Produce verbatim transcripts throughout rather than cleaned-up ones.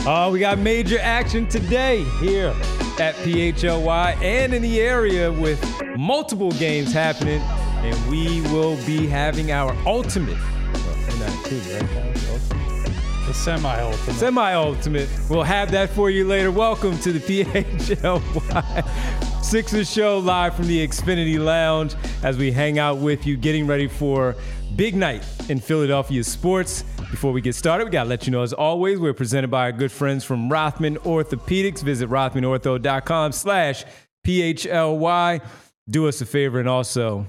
Oh, we got major action today here at P H L Y and in the area with multiple games happening. And we will be having our ultimate, well, not included, right, Kyle? Ultimate? The semi-ultimate. Semi-ultimate. We'll have that for you later. Welcome to the P H L Y Sixers show live from the Xfinity Lounge as we hang out with you, getting ready for big night in Philadelphia sports. Before we get started, we got to let you know, as always, we're presented by our good friends from Rothman Orthopedics. Visit rothmanortho.com slash PHLY. Do us a favor and also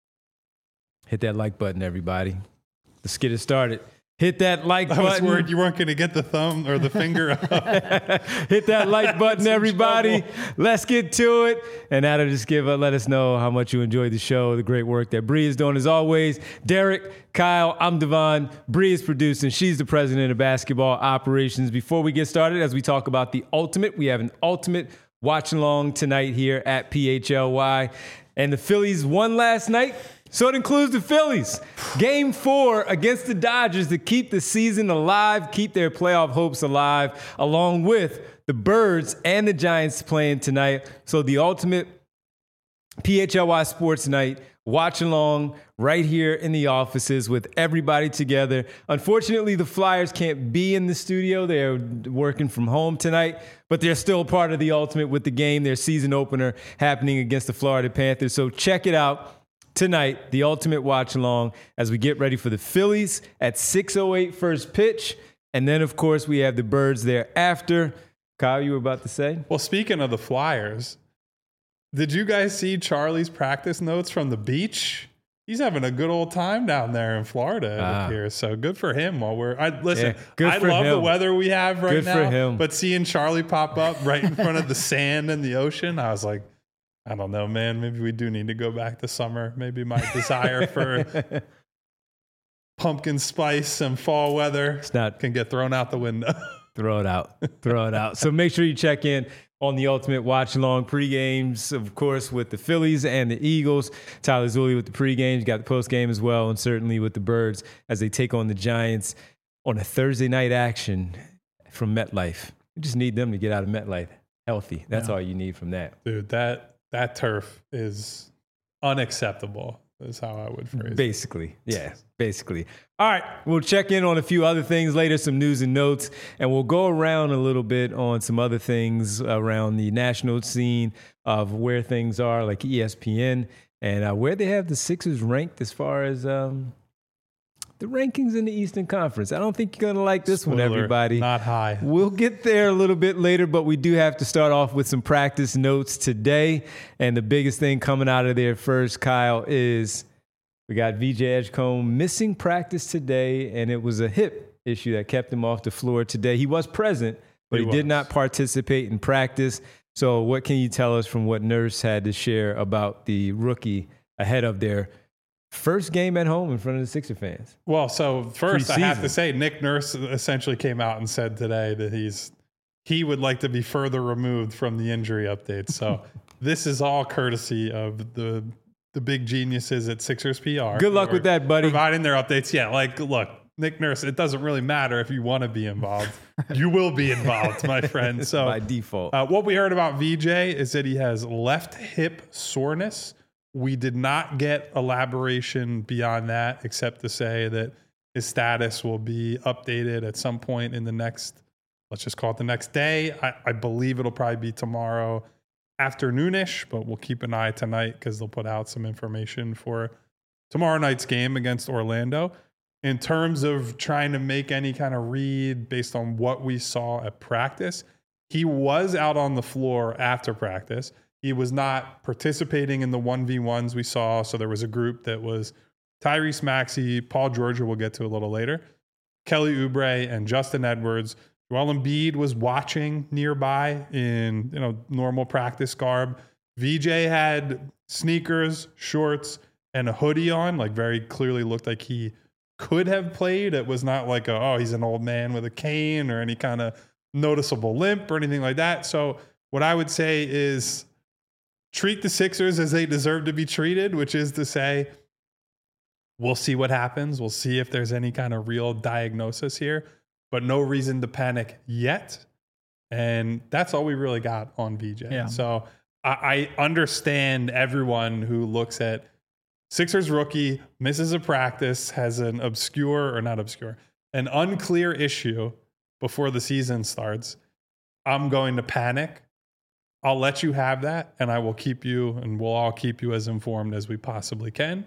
hit that like button, everybody. Let's get it started. Hit that like button. I was worried you weren't going to get the thumb or the finger up. Hit that like button, everybody. Let's get to it. And that'll just give, uh, let us know how much you enjoyed the show, the great work that Bree is doing. As always, Derek, Kyle, I'm Devon. Bree is producing. She's the president of basketball operations. Before we get started, as we talk about the ultimate, we have an ultimate watch along tonight here at P H L Y. And the Phillies won last night. So it includes the Phillies. Game four against the Dodgers to keep the season alive, keep their playoff hopes alive, along with the Birds and the Giants playing tonight. So the ultimate P H L Y Sports Night, watch along right here in the offices with everybody together. Unfortunately, the Flyers can't be in the studio. They're working from home tonight, but they're still part of the ultimate with the game, their season opener happening against the Florida Panthers. So check it out. Tonight, the ultimate watch along as we get ready for the Phillies at six oh eight first pitch. And then, of course, we have the Birds there after. Kyle, you were about to say? Well, speaking of the Flyers, did you guys see Charlie's practice notes from the beach? He's having a good old time down there in Florida, it ah. appears. So good for him while we're I listen, yeah, good I for love him. the weather we have right good now. For him. But seeing Charlie pop up right in front of the sand and the ocean, I was like, I don't know, man. Maybe we do need to go back to summer. Maybe my desire for pumpkin spice and fall weather it's not, can get thrown out the window. Throw it out. Throw it out. So make sure you check in on the ultimate watch along pre-games, of course, with the Phillies and the Eagles. Tyler Zulli with the pre-games. You got the post-game as well, and certainly with the Birds as they take on the Giants on a Thursday night action from MetLife. You just need them to get out of MetLife healthy. That's yeah. all you need from that. Dude, that... That turf is unacceptable, is how I would phrase it. Basically, yeah, basically. All right, we'll check in on a few other things later, some news and notes, and we'll go around a little bit on some other things around the national scene of where things are, like E S P N, and uh, where they have the Sixers ranked as far as um, the rankings in the Eastern Conference. I don't think you're going to like this Spoiler, one, everybody. Not high. We'll get there a little bit later, but we do have to start off with some practice notes today. And the biggest thing coming out of there first, Kyle, is we got V J Edgecombe missing practice today, and it was a hip issue that kept him off the floor today. He was present, but he, he did not participate in practice. So what can you tell us from what Nurse had to share about the rookie ahead of their first game at home in front of the Sixer fans? Well, so first Pre-season. I have to say Nick Nurse essentially came out and said today that he's he would like to be further removed from the injury updates. So this is all courtesy of the the big geniuses at Sixers P R. Good luck with that, buddy. Providing their updates. Yeah, like, look, Nick Nurse, it doesn't really matter if you want to be involved. You will be involved, my friend. So by default. Uh, what we heard about V J is that he has left hip soreness. We did not get elaboration beyond that, except to say that his status will be updated at some point in the next, let's just call it the next day. I, I believe it'll probably be tomorrow afternoonish, but we'll keep an eye tonight because they'll put out some information for tomorrow night's game against Orlando. In terms of trying to make any kind of read based on what we saw at practice, he was out on the floor after practice. He was not participating in the one v ones we saw. So there was a group that was Tyrese Maxey, Paul George, we'll get to a little later, Kelly Oubre, and Justin Edwards. Joel Embiid was watching nearby in you know normal practice garb. V J had sneakers, shorts, and a hoodie on, like very clearly looked like he could have played. It was not like, a, oh, he's an old man with a cane or any kind of noticeable limp or anything like that. So what I would say is treat the Sixers as they deserve to be treated, which is to say, we'll see what happens. We'll see if there's any kind of real diagnosis here, but no reason to panic yet. And that's all we really got on V J. Yeah. So I, I understand everyone who looks at Sixers rookie, misses a practice, has an obscure, or not obscure, an unclear issue before the season starts. I'm going to panic. I'll let you have that, and I will keep you, and we'll all keep you as informed as we possibly can.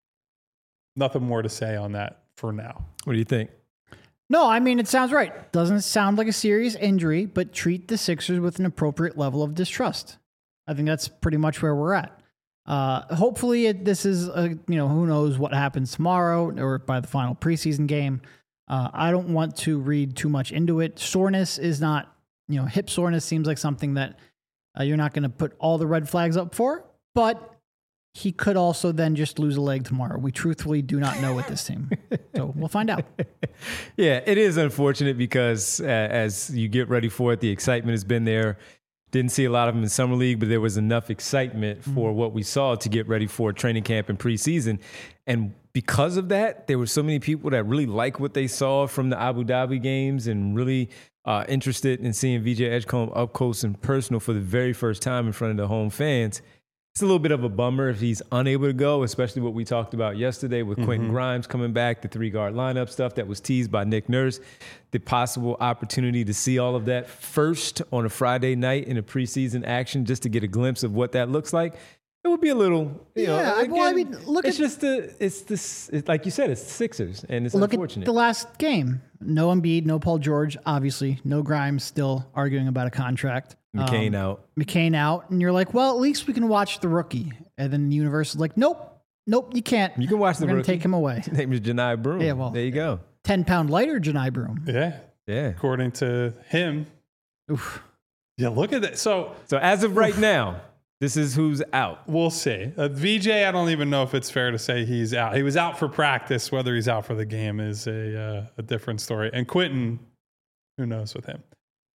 Nothing more to say on that for now. What do you think? No, I mean, it sounds right. Doesn't sound like a serious injury, but treat the Sixers with an appropriate level of distrust. I think that's pretty much where we're at. Uh, hopefully it, this is, a, you know, who knows what happens tomorrow or by the final preseason game. Uh, I don't want to read too much into it. Soreness is not, you know, hip soreness seems like something that uh, you're not going to put all the red flags up for, but he could also then just lose a leg tomorrow. We truthfully do not know with this team. So we'll find out. Yeah, it is unfortunate because uh, as you get ready for it, the excitement has been there. Didn't see a lot of them in Summer League, but there was enough excitement for mm-hmm. what we saw to get ready for training camp and preseason. And because of that, there were so many people that really like what they saw from the Abu Dhabi games and really uh, interested in seeing V J Edgecombe up close and personal for the very first time in front of the home fans. It's a little bit of a bummer if he's unable to go, especially what we talked about yesterday with mm-hmm. Quentin Grimes coming back, the three-guard lineup stuff that was teased by Nick Nurse, the possible opportunity to see all of that first on a Friday night in a preseason action just to get a glimpse of what that looks like. It would be a little, you yeah, know, again, well, I mean, look it's at, just the, it's this, it's, like you said, it's the Sixers, and it's look unfortunate. Look at the last game. No Embiid, no Paul George, obviously. No Grimes, still arguing about a contract. McCain um, out. McCain out. And you're like, well, at least we can watch the rookie. And then the universe is like, nope, nope, you can't. You can watch We're the gonna rookie. Take him away. His name is Janai Broom. Yeah, well, there you go. ten pound lighter Janai Broom. Yeah. Yeah. According to him. Oof. Yeah, look at that. So, so as of right now, this is who's out. We'll see. Uh, V J, I don't even know if it's fair to say he's out. He was out for practice. Whether he's out for the game is a uh, a different story. And Quentin, who knows with him.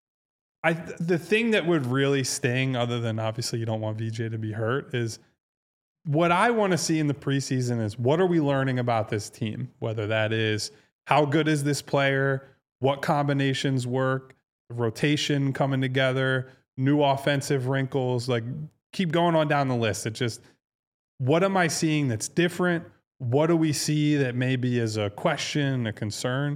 I the thing that would really sting, other than obviously you don't want V J to be hurt, is what I want to see in the preseason is what are we learning about this team? Whether that is how good is this player, what combinations work, rotation coming together, new offensive wrinkles, like keep going on down the list. It just, what am I seeing that's different? What do we see that maybe is a question, a concern?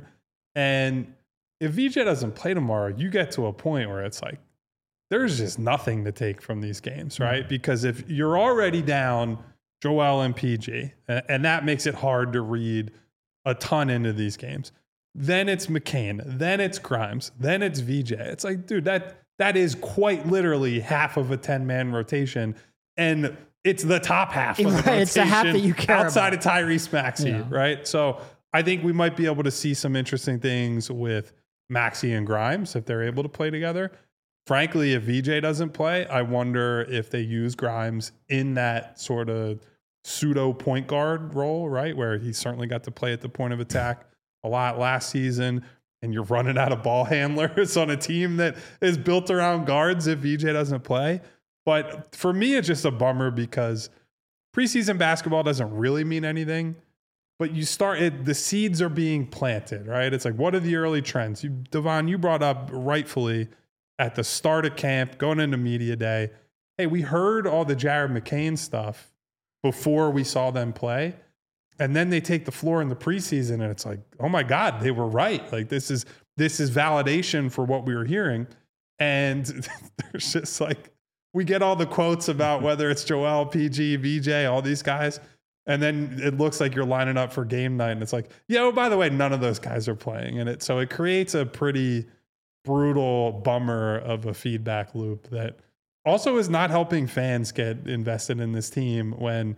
And if V J doesn't play tomorrow, you get to a point where it's like, there's just nothing to take from these games, right? Mm-hmm. Because if you're already down Joel and P G, and that makes it hard to read a ton into these games, then it's McCain, then it's Grimes, then it's V J. It's like, dude, that that is quite literally half of a ten-man rotation, and it's the top half of the right, rotation it's the half that you care outside about. of Tyrese Maxey, yeah. right? So I think we might be able to see some interesting things with Maxey and Grimes if they're able to play together. Frankly, if V J doesn't play, I wonder if they use Grimes in that sort of pseudo point guard role, right? Where he certainly got to play at the point of attack a lot last season, and you're running out of ball handlers on a team that is built around guards if V J doesn't play. But for me, it's just a bummer because preseason basketball doesn't really mean anything. But you start it, the seeds are being planted, right? It's like, what are the early trends? You, Devon, you brought up rightfully at the start of camp, going into media day, hey, we heard all the Jared McCain stuff before we saw them play. And then they take the floor in the preseason and it's like, oh my God, they were right. Like this is, this is validation for what we were hearing. And there's just like, we get all the quotes about whether it's Joel, P G, V J, all these guys. And then it looks like you're lining up for game night and it's like, yeah, oh, by the way, none of those guys are playing in it. So it creates a pretty brutal bummer of a feedback loop that also is not helping fans get invested in this team when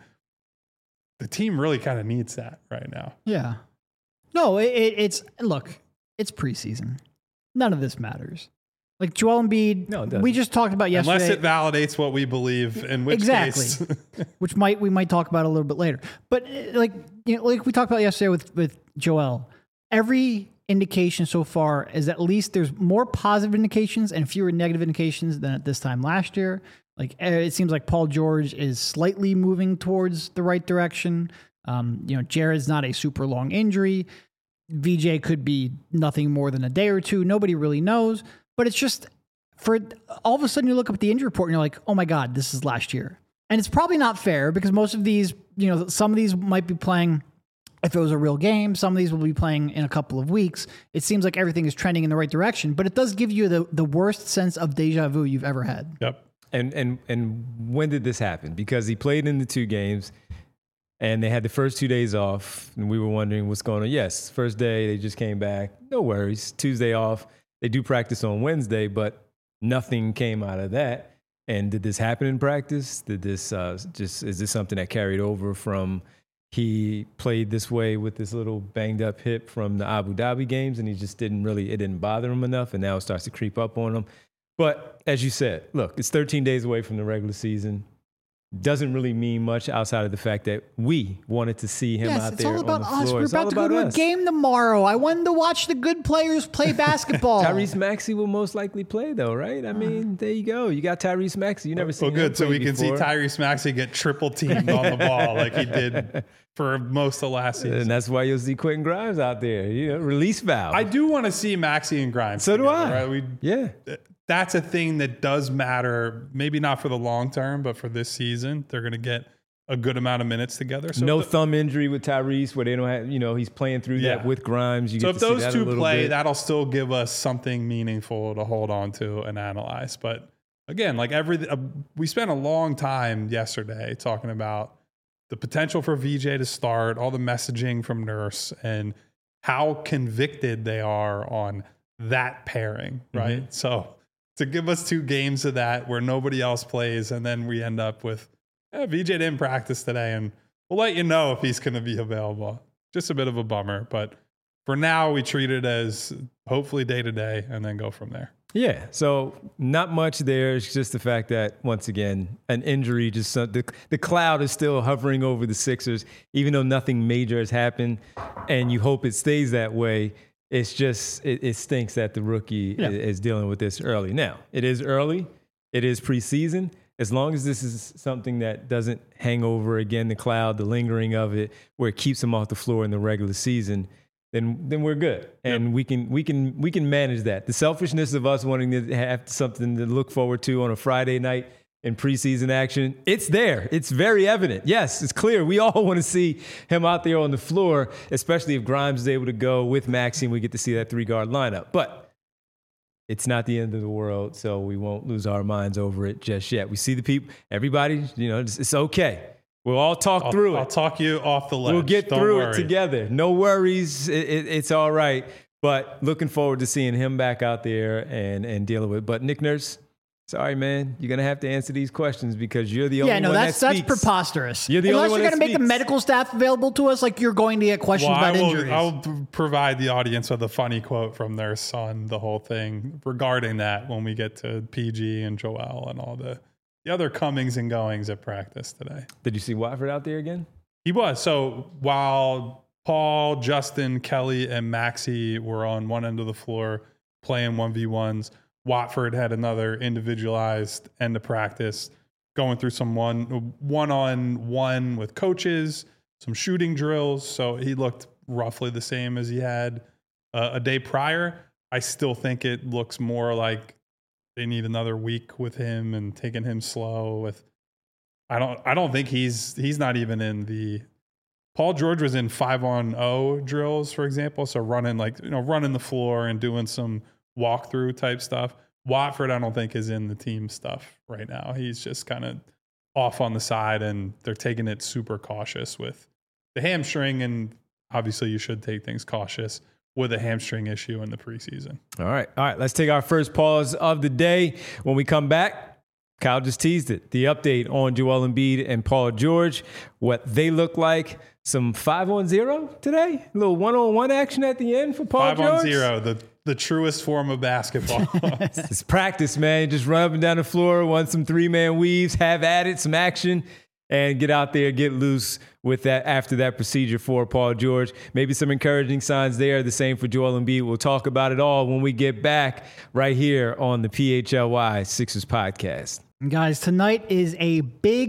the team really kind of needs that right now. Yeah. No, it, it, it's, look, it's preseason. None of this matters. Like Joel Embiid, no, we just talked about yesterday. Unless it validates what we believe, in which exactly. case. which might we might talk about a little bit later. But like you know, like we talked about yesterday with, with Joel, every indication so far is at least there's more positive indications and fewer negative indications than at this time last year. Like it seems like Paul George is slightly moving towards the right direction. Um, you know, Jared's not a super long injury. V J could be nothing more than a day or two. Nobody really knows. But it's just, for all of a sudden you look up at the injury report and you're like, oh my God, this is last year. And it's probably not fair because most of these, you know, some of these might be playing if it was a real game. Some of these will be playing in a couple of weeks. It seems like everything is trending in the right direction, but it does give you the, the worst sense of deja vu you've ever had. Yep. And and and when did this happen? Because he played in the two games, and they had the first two days off, and we were wondering what's going on. Yes, first day they just came back, no worries. Tuesday off, they do practice on Wednesday, but nothing came out of that. And did this happen in practice? Did this uh, just is this something that carried over from he played this way with this little banged up hip from the Abu Dhabi games, and he just didn't really it didn't bother him enough, and now it starts to creep up on him. But as you said, look, it's thirteen days away from the regular season. Doesn't really mean much outside of the fact that we wanted to see him yes, out it's there all about on the us. floor. We're It's about all to go to us. a game tomorrow. I wanted to watch the good players play basketball. Tyrese Maxey will most likely play, though, right? I mean, there you go. You got Tyrese Maxey. You never seen Well, him good. So play we can before. see Tyrese Maxey get triple teamed on the ball like he did for most of last season. And that's why you'll see Quentin Grimes out there. You know, release valve. I do want to see Maxey and Grimes. So do together, I. Right? We, yeah. That's a thing that does matter. Maybe not for the long term, but for this season, they're going to get a good amount of minutes together. So no the, thumb injury with Tyrese, where they don't have, you know, he's playing through Yeah. that with Grimes. You so get if to see those that a two little play, bit. that'll still give us something meaningful to hold on to and analyze. But again, like every, uh, we spent a long time yesterday talking about the potential for V J to start, all the messaging from Nurse, and how convicted they are on that pairing, right? Mm-hmm. So to give us two games of that where nobody else plays, and then we end up with eh, V J didn't practice today, and we'll let you know if he's going to be available. Just a bit of a bummer, but for now we treat it as hopefully day to day and then go from there. Yeah, so not much there. It's just the fact that, once again, an injury, just some, the, the cloud is still hovering over the Sixers, even though nothing major has happened, and you hope it stays that way. It's just, it, it stinks that the rookie Yeah. is, is dealing with this early. Now, it is early. It is preseason. As long as this is something that doesn't hang over, again, the cloud, the lingering of it, where it keeps him off the floor in the regular season, then then we're good, and Yep. we can we can we can manage that. The selfishness of us wanting to have something to look forward to on a Friday night in preseason action, it's there. It's very evident. Yes, it's clear. We all want to see him out there on the floor, especially if Grimes is able to go with Maxey and we get to see that three guard lineup. But it's not the end of the world, so we won't lose our minds over it just yet. We see the people, everybody. You know, it's, it's okay. We'll all talk I'll, through it. I'll talk you off the ledge. We'll get Don't through worry. it together. No worries. It, it, it's all right. But looking forward to seeing him back out there and, and dealing with it. But Nick Nurse, sorry, man. You're going to have to answer these questions because you're the only Yeah, no, one that's that that's speaks. preposterous. You're the Unless only one you're that going to make the speaks. medical staff available to us, like you're going to get questions Well, I about will, injuries. I will p- provide the audience with a funny quote from their son, the whole thing regarding that when we get to P G and Joel and all the, the other comings and goings at practice today. Did you see Watford out there again? He was. So while Paul, Justin, Kelly, and Maxey were on one end of the floor playing one v ones, Watford had another individualized end of practice, going through some one one on one with coaches, some shooting drills. So he looked roughly the same as he had uh, a day prior. I still think it looks more like they need another week with him and taking him slow. With I don't I don't think he's he's not even in the. Paul George was in five on zero drills, for example, so running like you know running the floor and doing some walkthrough type stuff. Watford, I don't think, is in the team stuff right now. He's just kind of off on the side, and they're taking it super cautious with the hamstring. And obviously, you should take things cautious with a hamstring issue in the preseason. All right. All right. Let's take our first pause of the day. When we come back, Kyle just teased it. The update on Joel Embiid and Paul George, what they look like. Some five on zero today. A little one on one action at the end for Paul Five George. on zero, the the truest form of basketball. It's practice, man. Just run up and down the floor, run some three man weaves, have at it, some action, and get out there, get loose with that after that procedure for Paul George. Maybe some encouraging signs there. The same for Joel Embiid. We'll talk about it all when we get back right here on the P H L Y Sixers podcast. Guys, tonight is a big,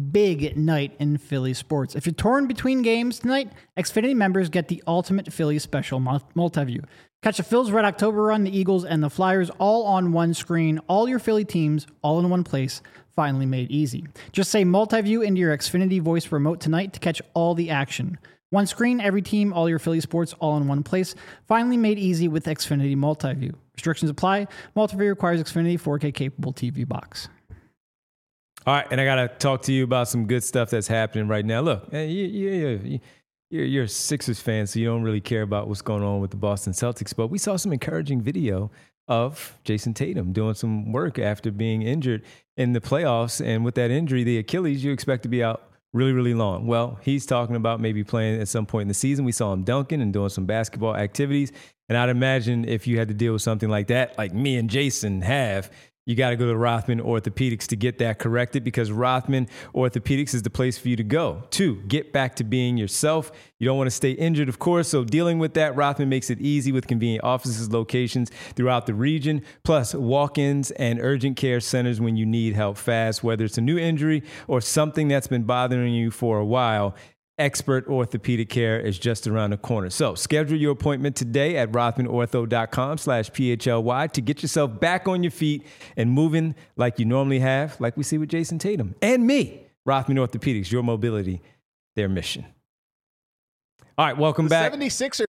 big night in Philly sports. If you're torn between games tonight, Xfinity members get the ultimate Philly special multi-view. Catch the Phils Red October Run, the Eagles, and the Flyers all on one screen. All your Philly teams, all in one place. Finally made easy. Just say multi-view into your Xfinity voice remote tonight to catch all the action. One screen, every team, all your Philly sports, all in one place. Finally made easy with Xfinity Multi-View. Restrictions apply. Multi-View requires Xfinity four K capable T V box. All right, and I got to talk to you about some good stuff that's happening right now. Look, you, you, you're, you're a Sixers fan, so you don't really care about what's going on with the Boston Celtics, but we saw some encouraging video of Jason Tatum doing some work after being injured in the playoffs. And with that injury, the Achilles, you expect to be out really, really long. Well, he's talking about maybe playing at some point in the season. We saw him dunking and doing some basketball activities. And I'd imagine if you had to deal with something like that, like me and Jason have, you got to go to Rothman Orthopedics to get that corrected, because Rothman Orthopedics is the place for you to go to get back to being yourself. You don't want to stay injured, of course. So dealing with that, Rothman makes it easy with convenient offices, locations throughout the region, plus walk-ins and urgent care centers when you need help fast, whether it's a new injury or something that's been bothering you for a while. Expert orthopedic care is just around the corner. So schedule your appointment today at rothmanortho.com slash PHLY to get yourself back on your feet and moving like you normally have, like we see with Jason Tatum and me. Rothman Orthopedics, your mobility, their mission. All right, welcome the back. seventy-sixers.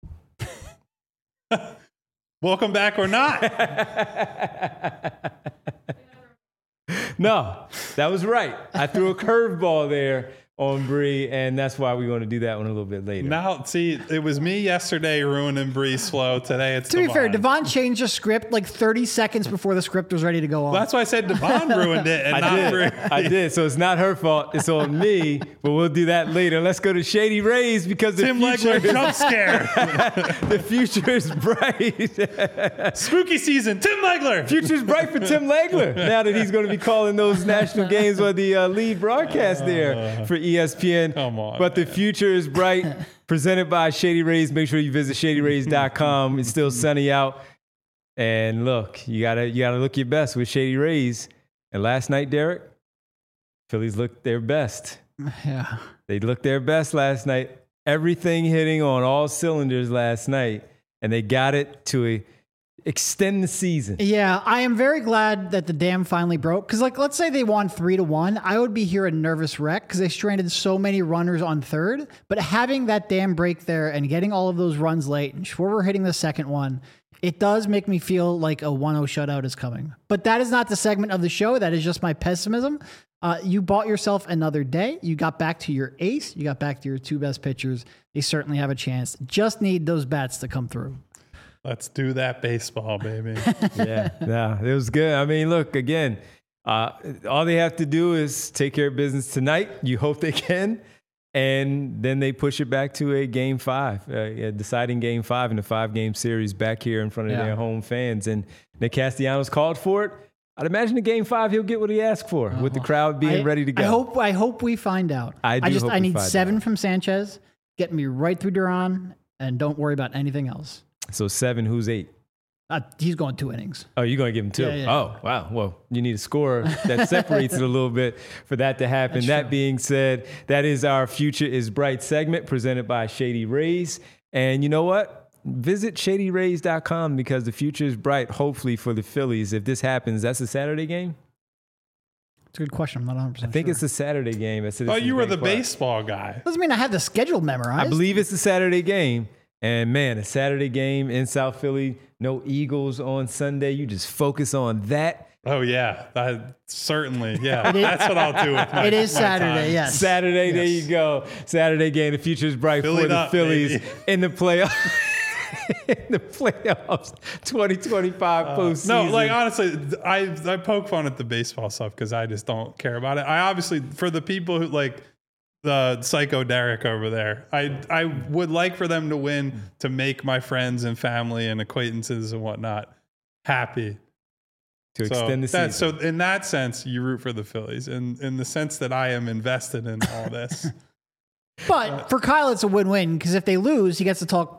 Welcome back or not. No, that was right. I threw a curveball there on Bree, and that's why we're going to do that one a little bit later. Now, see, it was me yesterday ruining Bree's flow. Today it's To be Devon. fair, Devon changed the script like thirty seconds before the script was ready to go on. Well, that's why I said Devon ruined it and I not did. Bree. I did. So it's not her fault. It's on me, but we'll do that later. Let's go to Shady Rays because the Tim future, Legler jump scare. the future is bright. Spooky season. Tim Legler. Future's bright for Tim Legler now that he's going to be calling those national games or the uh, lead broadcast there for E S P N. Come on, But the man. future is bright. Presented by Shady Rays. Make sure you visit shady rays dot com. It's still sunny out. And look, you gotta you gotta look your best with Shady Rays. And last night, Derek, Phillies looked their best. Yeah. They looked their best last night. Everything hitting on all cylinders last night. And they got it to a extend the season. Yeah, I am very glad that the dam finally broke. Because, like, let's say they won three to one, I would be here a nervous wreck because they stranded so many runners on third. But having that dam break there and getting all of those runs late, and Schwarber hitting the second one, it does make me feel like a one oh shutout is coming. But that is not the segment of the show. That is just my pessimism. Uh, you bought yourself another day. You got back to your ace. You got back to your two best pitchers. They certainly have a chance. Just need those bats to come through. Let's do that baseball, baby. Yeah, yeah, it was good. I mean, look, again, uh, all they have to do is take care of business tonight. You hope they can. And then they push it back to a game five, uh, a deciding game five in a five-game series back here in front of Yeah. their home fans. And Nick Castellanos called for it. I'd imagine in game five, he'll get what he asked for with the crowd being I, ready to go. I hope I hope we find out. I do just hope I we need find seven out. from Sanchez. Get me right through Duran, and don't worry about anything else. So seven, who's eight? Uh, he's going two innings. Oh, you're going to give him two? Yeah, yeah. Oh, wow. Well, you need a score that separates it a little bit for that to happen. That's that true. being said, that is our Future is Bright segment presented by Shady Rays. And you know what? Visit shady rays dot com because the future is bright, hopefully, for the Phillies. If this happens, that's a Saturday game? It's a good question. I'm not one hundred percent I think sure. it's a Saturday game. At Oh, Citizens you were Bank the Park. baseball guy. Doesn't mean I have the schedule memorized. I believe it's a Saturday game. And man, a Saturday game in South Philly, no Eagles on Sunday. You just focus on that. Oh, yeah. That, certainly. Yeah. That's what I'll do with my It is my Saturday, time. yes. Saturday, there Yes. you go. Saturday game. The future is bright Fill for it the up, Phillies baby. in the playoffs. in the playoffs, twenty twenty-five Uh, postseason. no, like honestly, I I poke fun at the baseball stuff because I just don't care about it. I obviously, for the people who like the psycho Derek over there, I I would like for them to win to make my friends and family and acquaintances and whatnot happy. to So extend the season. that, so in that sense, you root for the Phillies. In in the sense that I am invested in all this. But for Kyle, it's a win-win because if they lose, he gets to talk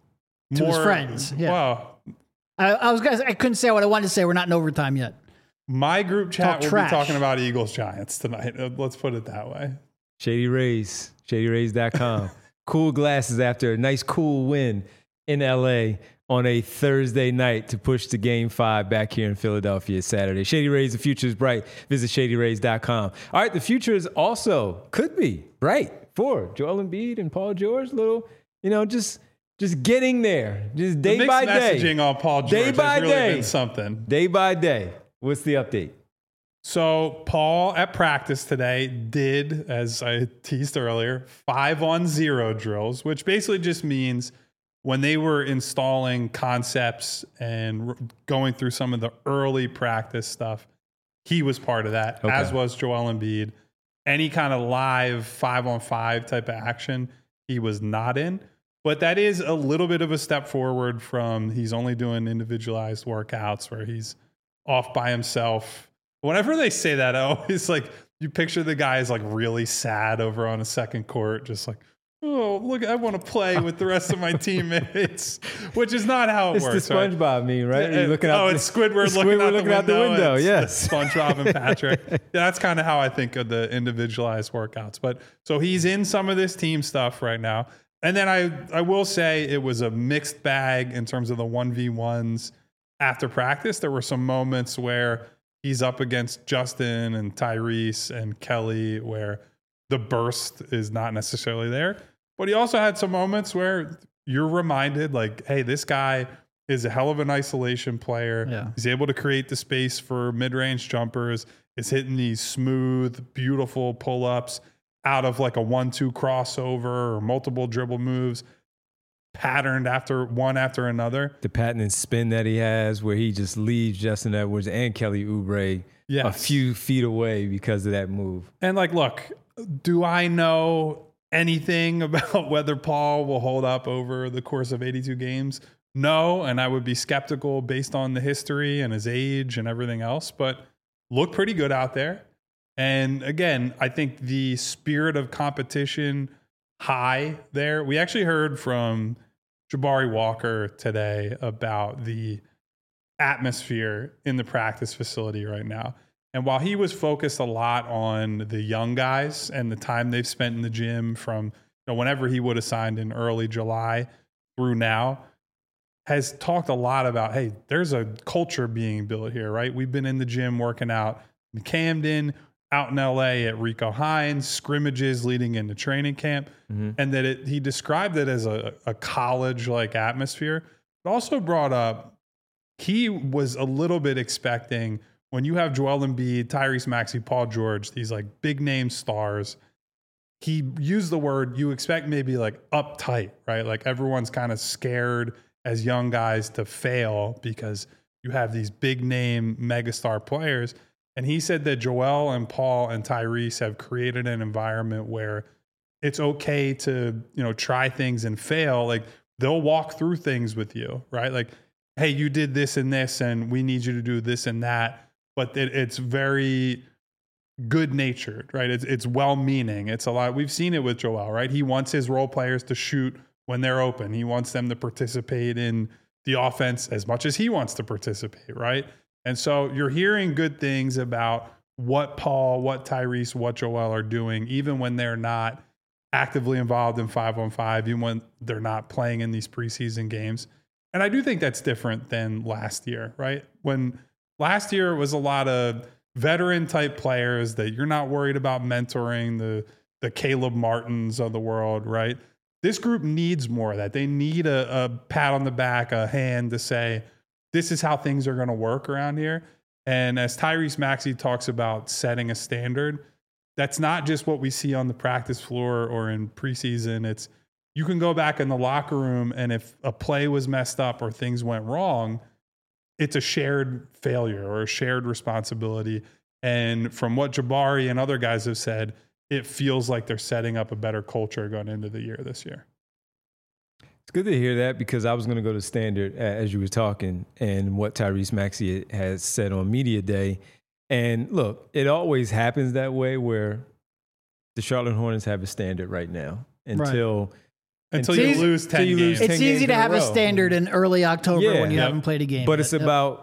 to his friends. Yeah. Wow. I, I was gonna. I couldn't say what I wanted to say. We're not in overtime yet. My group chat Talk will trash. be talking about Eagles Giants tonight. Uh, Let's put it that way. Shady Rays, shady rays dot com. Cool glasses after a nice cool win in L A on a Thursday night to push to game five back here in Philadelphia Saturday. Shady Rays, the future is bright. Visit shady rays dot com. All right, the future is also, could be, bright for Joel Embiid and Paul George. Little, you know, just just getting there. Just day the by mixed day. messaging on Paul George Day has by really day. been something. Day by day. What's the update? So Paul at practice today did, as I teased earlier, five on zero drills, which basically just means when they were installing concepts and r- going through some of the early practice stuff, he was part of that, Okay. as was Joel Embiid. Any kind of live five on five type of action, he was not in. But that is a little bit of a step forward from he's only doing individualized workouts where he's off by himself. Whenever they say that, I always like, you picture the guy is like really sad over on a second court, just like, oh, look, I want to play with the rest of my teammates, which is not how it It's works. the SpongeBob right? meme, right? Yeah, You're looking oh, out it's the, Squidward, the looking, Squidward out, looking the out the window. It's Yes. SpongeBob and Patrick. Yeah, that's kind of how I think of the individualized workouts. But so he's in some of this team stuff right now. And then I, I will say it was a mixed bag in terms of the one v ones after practice. There were some moments where he's up against Justin and Tyrese and Kelly where the burst is not necessarily there. But he also had some moments where you're reminded, like, hey, this guy is a hell of an isolation player. Yeah. He's able to create the space for mid-range jumpers. Is hitting these smooth, beautiful pull-ups out of like a one two crossover or multiple dribble moves, patterned after one after another. The patented spin that he has where he just leaves Justin Edwards and Kelly Oubre Yes. a few feet away because of that move. And like, look, do I know anything about whether Paul will hold up over the course of eighty-two games? No, and I would be skeptical based on the history and his age and everything else, but look pretty good out there. And again, I think the spirit of competition high there. We actually heard from Jabari Walker today about the atmosphere in the practice facility right now. And while he was focused a lot on the young guys and the time they've spent in the gym from you know, whenever he would have signed in early July through now, has talked a lot about, hey, there's a culture being built here, right? We've been in the gym working out in Camden, out in L A at Rico Hines, scrimmages leading into training camp, Mm-hmm. and that it, he described it as a, a college-like atmosphere, but also brought up he was a little bit expecting when you have Joel Embiid, Tyrese Maxey, Paul George, these like big name stars, he used the word you expect maybe like uptight, right? Like everyone's kind of scared as young guys to fail because you have these big name megastar players. And he said that Joel and Paul and Tyrese have created an environment where it's okay to, you know, try things and fail. Like they'll walk through things with you, right? Like, hey, you did this and this, and we need you to do this and that. But it, it's very good natured, right? It's, it's well-meaning. It's a lot. We've seen it with Joel, right? He wants his role players to shoot when they're open. He wants them to participate in the offense as much as he wants to participate, right? And so you're hearing good things about what Paul, what Tyrese, what Joel are doing, even when they're not actively involved in five on five, even when they're not playing in these preseason games. And I do think that's different than last year, right? When last year it was a lot of veteran type players that you're not worried about mentoring, the the Caleb Martins of the world, right? This group needs more of that. They need a, a pat on the back, a hand to say, this is how things are going to work around here. And as Tyrese Maxey talks about setting a standard, that's not just what we see on the practice floor or in preseason. It's you can go back in the locker room, and if a play was messed up or things went wrong, it's a shared failure or a shared responsibility. And from what Jabari and other guys have said, it feels like they're setting up a better culture going into the year this year. It's good to hear that because I was going to go to standard as you were talking and what Tyrese Maxey has said on Media Day. And look, it always happens that way where the Charlotte Hornets have a standard right now until Right. Until until you easy- lose ten until you lose games. ten It's games easy to in a have a row. standard in early October Yeah. when you Yep. haven't played a game. But yet. it's Yep. about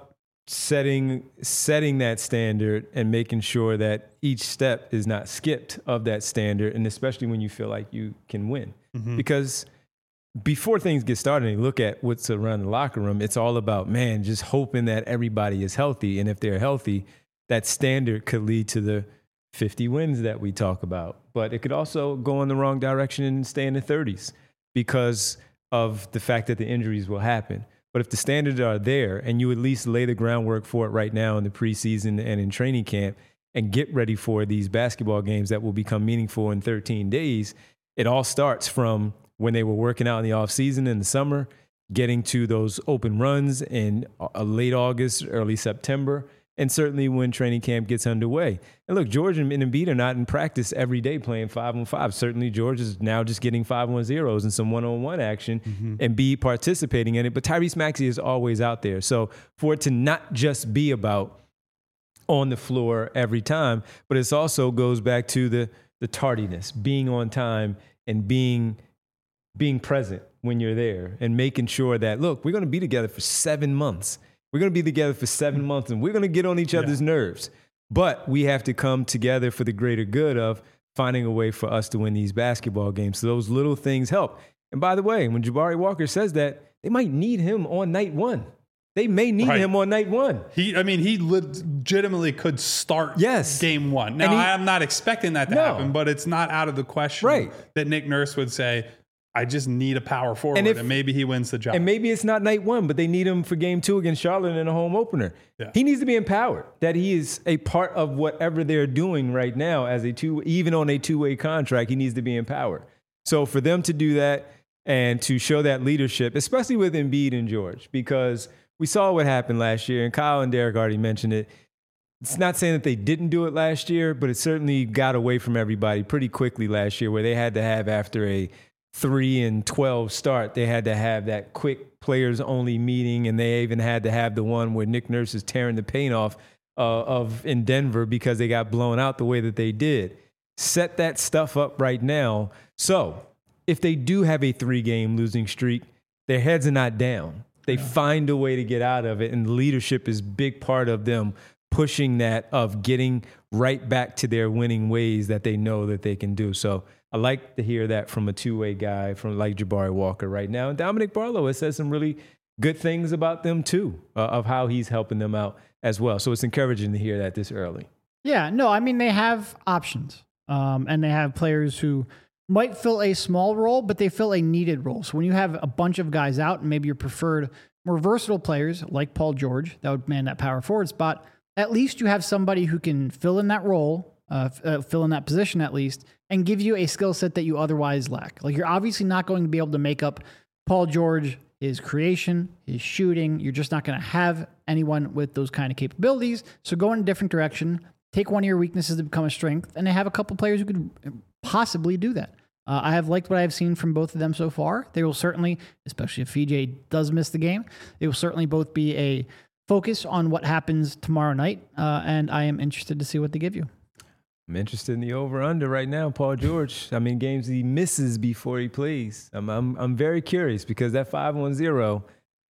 setting setting that standard and making sure that each step is not skipped of that standard, and especially when you feel like you can win. Mm-hmm. Because before things get started and you look at what's around the locker room, it's all about, man, just hoping that everybody is healthy. And if they're healthy, that standard could lead to the fifty wins that we talk about. But it could also go in the wrong direction and stay in the thirties because of the fact that the injuries will happen. But if the standards are there and you at least lay the groundwork for it right now in the preseason and in training camp and get ready for these basketball games that will become meaningful in thirteen days, it all starts from when they were working out in the offseason in the summer, getting to those open runs in late August, early September, and certainly when training camp gets underway. And look, George and Embiid are not in practice every day playing five on five. Certainly George is now just getting five on zeros and some one-on-one action, mm-hmm. and Embiid participating in it. But Tyrese Maxey is always out there. So for it to not just be about on the floor every time, but it also goes back to the the tardiness, being on time and being being present when you're there and making sure that, look, we're going to be together for seven months. We're going to be together for seven months and we're going to get on each other's yeah. nerves. But we have to come together for the greater good of finding a way for us to win these basketball games. So those little things help. And by the way, when Jabari Walker says that, they might need him on night one. They may need right. him on night one. He, I mean, he legitimately could start yes. game one. Now, he, I'm not expecting that to no. happen, but it's not out of the question right. that Nick Nurse would say, I just need a power forward, and, if, and maybe he wins the job. And maybe it's not night one, but they need him for game two against Charlotte in a home opener. Yeah. He needs to be empowered, that he is a part of whatever they're doing right now as a two, even on a two-way contract, he needs to be empowered. So for them to do that and to show that leadership, especially with Embiid and George, because we saw what happened last year, and Kyle and Derek already mentioned it. It's not saying that they didn't do it last year, but it certainly got away from everybody pretty quickly last year, where they had to have, after a three and twelve start, they had to have that quick players only meeting, and they even had to have the one where Nick Nurse is tearing the paint off uh, of in Denver because they got blown out the way that they did. Set that stuff up right now. So if they do have a three-game losing streak, their heads are not down. They yeah. find a way to get out of it, and leadership is a big part of them pushing that, of getting right back to their winning ways that they know that they can do. So I like to hear that from a two-way guy from like Jabari Walker right now. And Dominic Barlow has said some really good things about them too, uh, of how he's helping them out as well. So it's encouraging to hear that this early. Yeah, no, I mean, they have options, um, and they have players who might fill a small role, but they fill a needed role. So when you have a bunch of guys out and maybe your preferred more versatile players like Paul George that would man that power forward spot, at least you have somebody who can fill in that role, uh, uh, fill in that position at least, and give you a skill set that you otherwise lack. Like, you're obviously not going to be able to make up Paul George, his creation, his shooting. You're just not going to have anyone with those kind of capabilities. So go in a different direction, take one of your weaknesses to become a strength, and they have a couple players who could possibly do that. Uh, I have liked what I've seen from both of them so far. They will certainly, especially if V J does miss the game, they will certainly both be a focus on what happens tomorrow night, uh, and I am interested to see what they give you. I'm interested in the over-under right now, Paul George. I mean, games he misses before he plays. I'm I'm I'm very curious, because that five on zero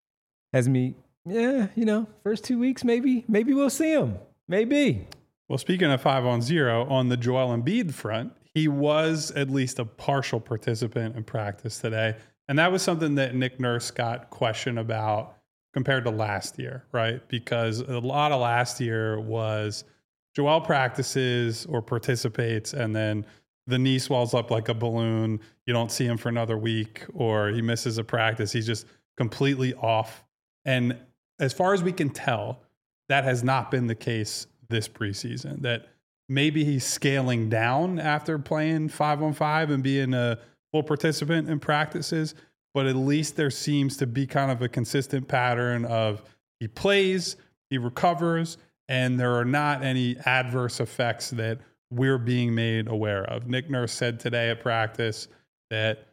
has me, yeah, you know, first two weeks, maybe, maybe we'll see him. Maybe. Well, speaking of five on zero, on the Joel Embiid front, he was at least a partial participant in practice today. And that was something that Nick Nurse got questioned about compared to last year, right? Because a lot of last year was Joel practices or participates, and then the knee swells up like a balloon. You don't see him for another week, or he misses a practice. He's just completely off. And as far as we can tell, that has not been the case this preseason. That maybe he's scaling down after playing five on five and being a full participant in practices, but at least there seems to be kind of a consistent pattern of he plays, he recovers, and there are not any adverse effects that we're being made aware of. Nick Nurse said today at practice that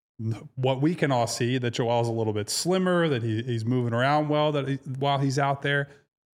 what we can all see, that Joel's a little bit slimmer, that he, he's moving around well that he, while he's out there.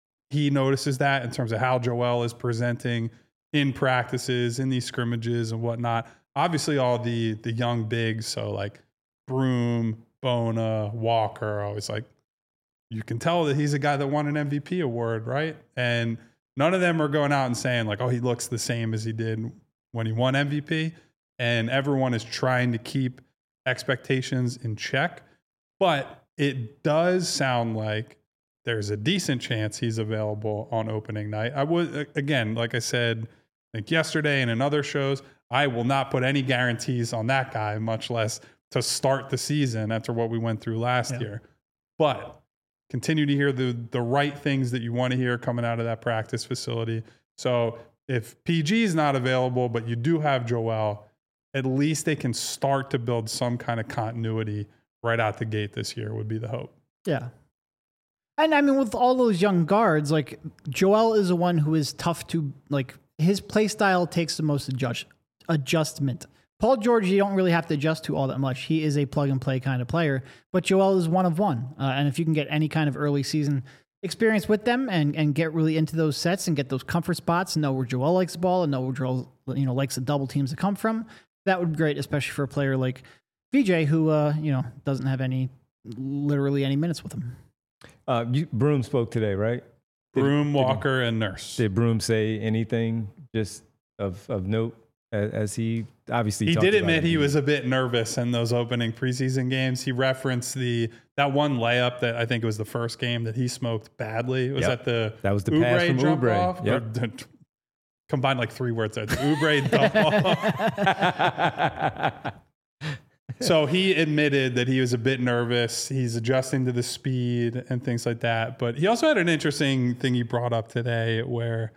He notices that in terms of how Joel is presenting in practices, in these scrimmages and whatnot. Obviously, all the the young bigs, so like Broom, Bona, Walker, are always like you can tell that he's a guy that won an M V P award, right? And none of them are going out and saying like, oh, he looks the same as he did when he won M V P. And everyone is trying to keep expectations in check. But it does sound like there's a decent chance he's available on opening night. I would, again, like I said, I think yesterday and in other shows, I will not put any guarantees on that guy, much less to start the season after what we went through last yeah. year. But continue to hear the the right things that you want to hear coming out of that practice facility. So if P G is not available, but you do have Joel, at least they can start to build some kind of continuity right out the gate this year would be the hope. Yeah. And I mean, with all those young guards, like Joel is the one who is tough to, like his play style takes the most adjust, adjustment. Paul George, you don't really have to adjust to all that much. He is a plug-and-play kind of player, but Joel is one of one. Uh, and if you can get any kind of early season experience with them and, and get really into those sets and get those comfort spots and know where Joel likes the ball and know where Joel you know, likes the double teams to come from, that would be great, especially for a player like V J who uh, you know doesn't have any, literally any minutes with him. Uh, you, Broom spoke today, right? Did, Broom, did Walker, he, and Nurse. Did Broom say anything just of, of note? As he obviously he talked did about admit it. he was a bit nervous in those opening preseason games. He referenced the that one layup that I think it was the first game that he smoked badly. Was yep. that the that was the Oubre pass from jump Oubre? Off? Yep. Or, combined like three words there. The Oubre dump off. So he admitted that he was a bit nervous. He's adjusting to the speed and things like that. But he also had an interesting thing he brought up today where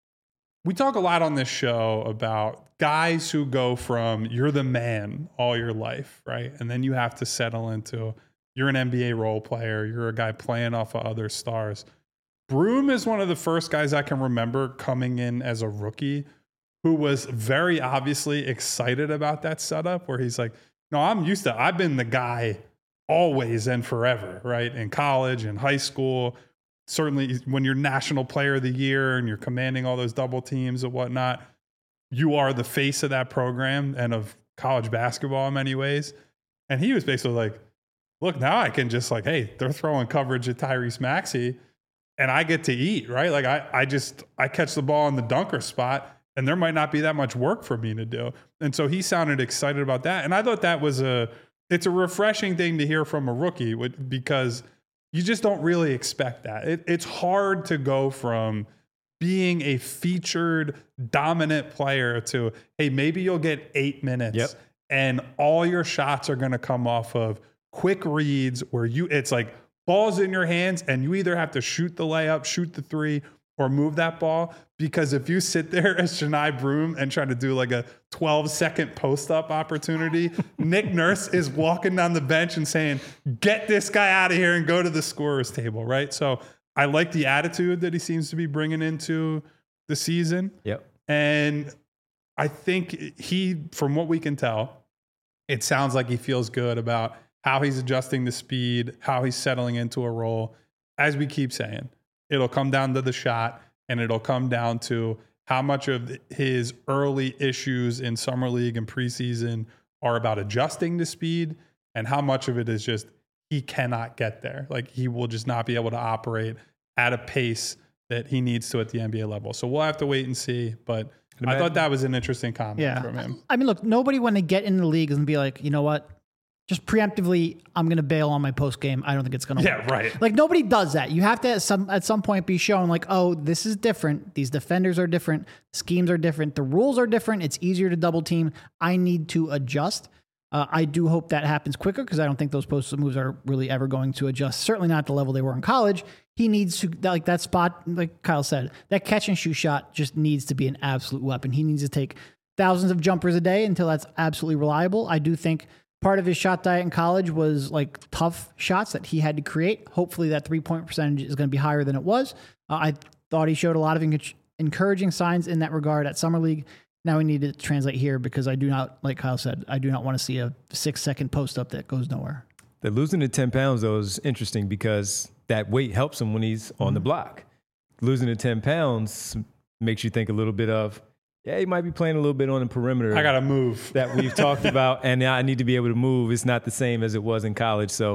we talk a lot on this show about guys who go from you're the man all your life, right? And then you have to settle into you're an N B A role player. You're a guy playing off of other stars. Broom is one of the first guys I can remember coming in as a rookie who was very obviously excited about that setup where he's like, no, I'm used to, I've been the guy always and forever, right? In college and high school, certainly when you're national player of the year and you're commanding all those double teams and whatnot, you are the face of that program and of college basketball in many ways. And he was basically like, look, now I can just like, hey, they're throwing coverage at Tyrese Maxey and I get to eat, right? Like I, I just, I catch the ball in the dunker spot and there might not be that much work for me to do. And so he sounded excited about that. And I thought that was a, it's a refreshing thing to hear from a rookie because you just don't really expect that. It, it's hard to go from being a featured dominant player to, hey, maybe you'll get eight minutes yep. and all your shots are going to come off of quick reads where you, it's like balls in your hands and you either have to shoot the layup, shoot the three, or move that ball. Because if you sit there as Johni Broome and try to do like a twelve second post up opportunity, Nick Nurse is walking down the bench and saying, get this guy out of here and go to the scorer's table, right? So I like the attitude that he seems to be bringing into the season. Yep. And I think he, from what we can tell, it sounds like he feels good about how he's adjusting the speed, how he's settling into a role. As we keep saying, it'll come down to the shot and it'll come down to how much of his early issues in summer league and preseason are about adjusting to speed and how much of it is just he cannot get there. Like he will just not be able to operate at a pace that he needs to at the N B A level. So we'll have to wait and see. But I thought that was an interesting comment yeah. from him. I mean, look, nobody when they get in the league is going to be like, you know what? Just preemptively, I'm going to bail on my post game. I don't think it's going to yeah, work. Yeah, right. Like nobody does that. You have to at some at some point be shown like, oh, this is different. These defenders are different. Schemes are different. The rules are different. It's easier to double team. I need to adjust. Uh, I do hope that happens quicker because I don't think those post moves are really ever going to adjust. Certainly not at the level they were in college. He needs to, like that spot, like Kyle said, that catch and shoot shot just needs to be an absolute weapon. He needs to take thousands of jumpers a day until that's absolutely reliable. I do think part of his shot diet in college was like tough shots that he had to create. Hopefully that three-point percentage is going to be higher than it was. Uh, I thought he showed a lot of en- encouraging signs in that regard at Summer League. Now we need to translate here because I do not, like Kyle said, I do not want to see a six-second post-up that goes nowhere. The losing the ten pounds, though, is interesting because that weight helps him when he's on mm-hmm. the block. Losing the ten pounds makes you think a little bit of, yeah, he might be playing a little bit on the perimeter. I got to move. That we've talked about, and I need to be able to move. It's not the same as it was in college. So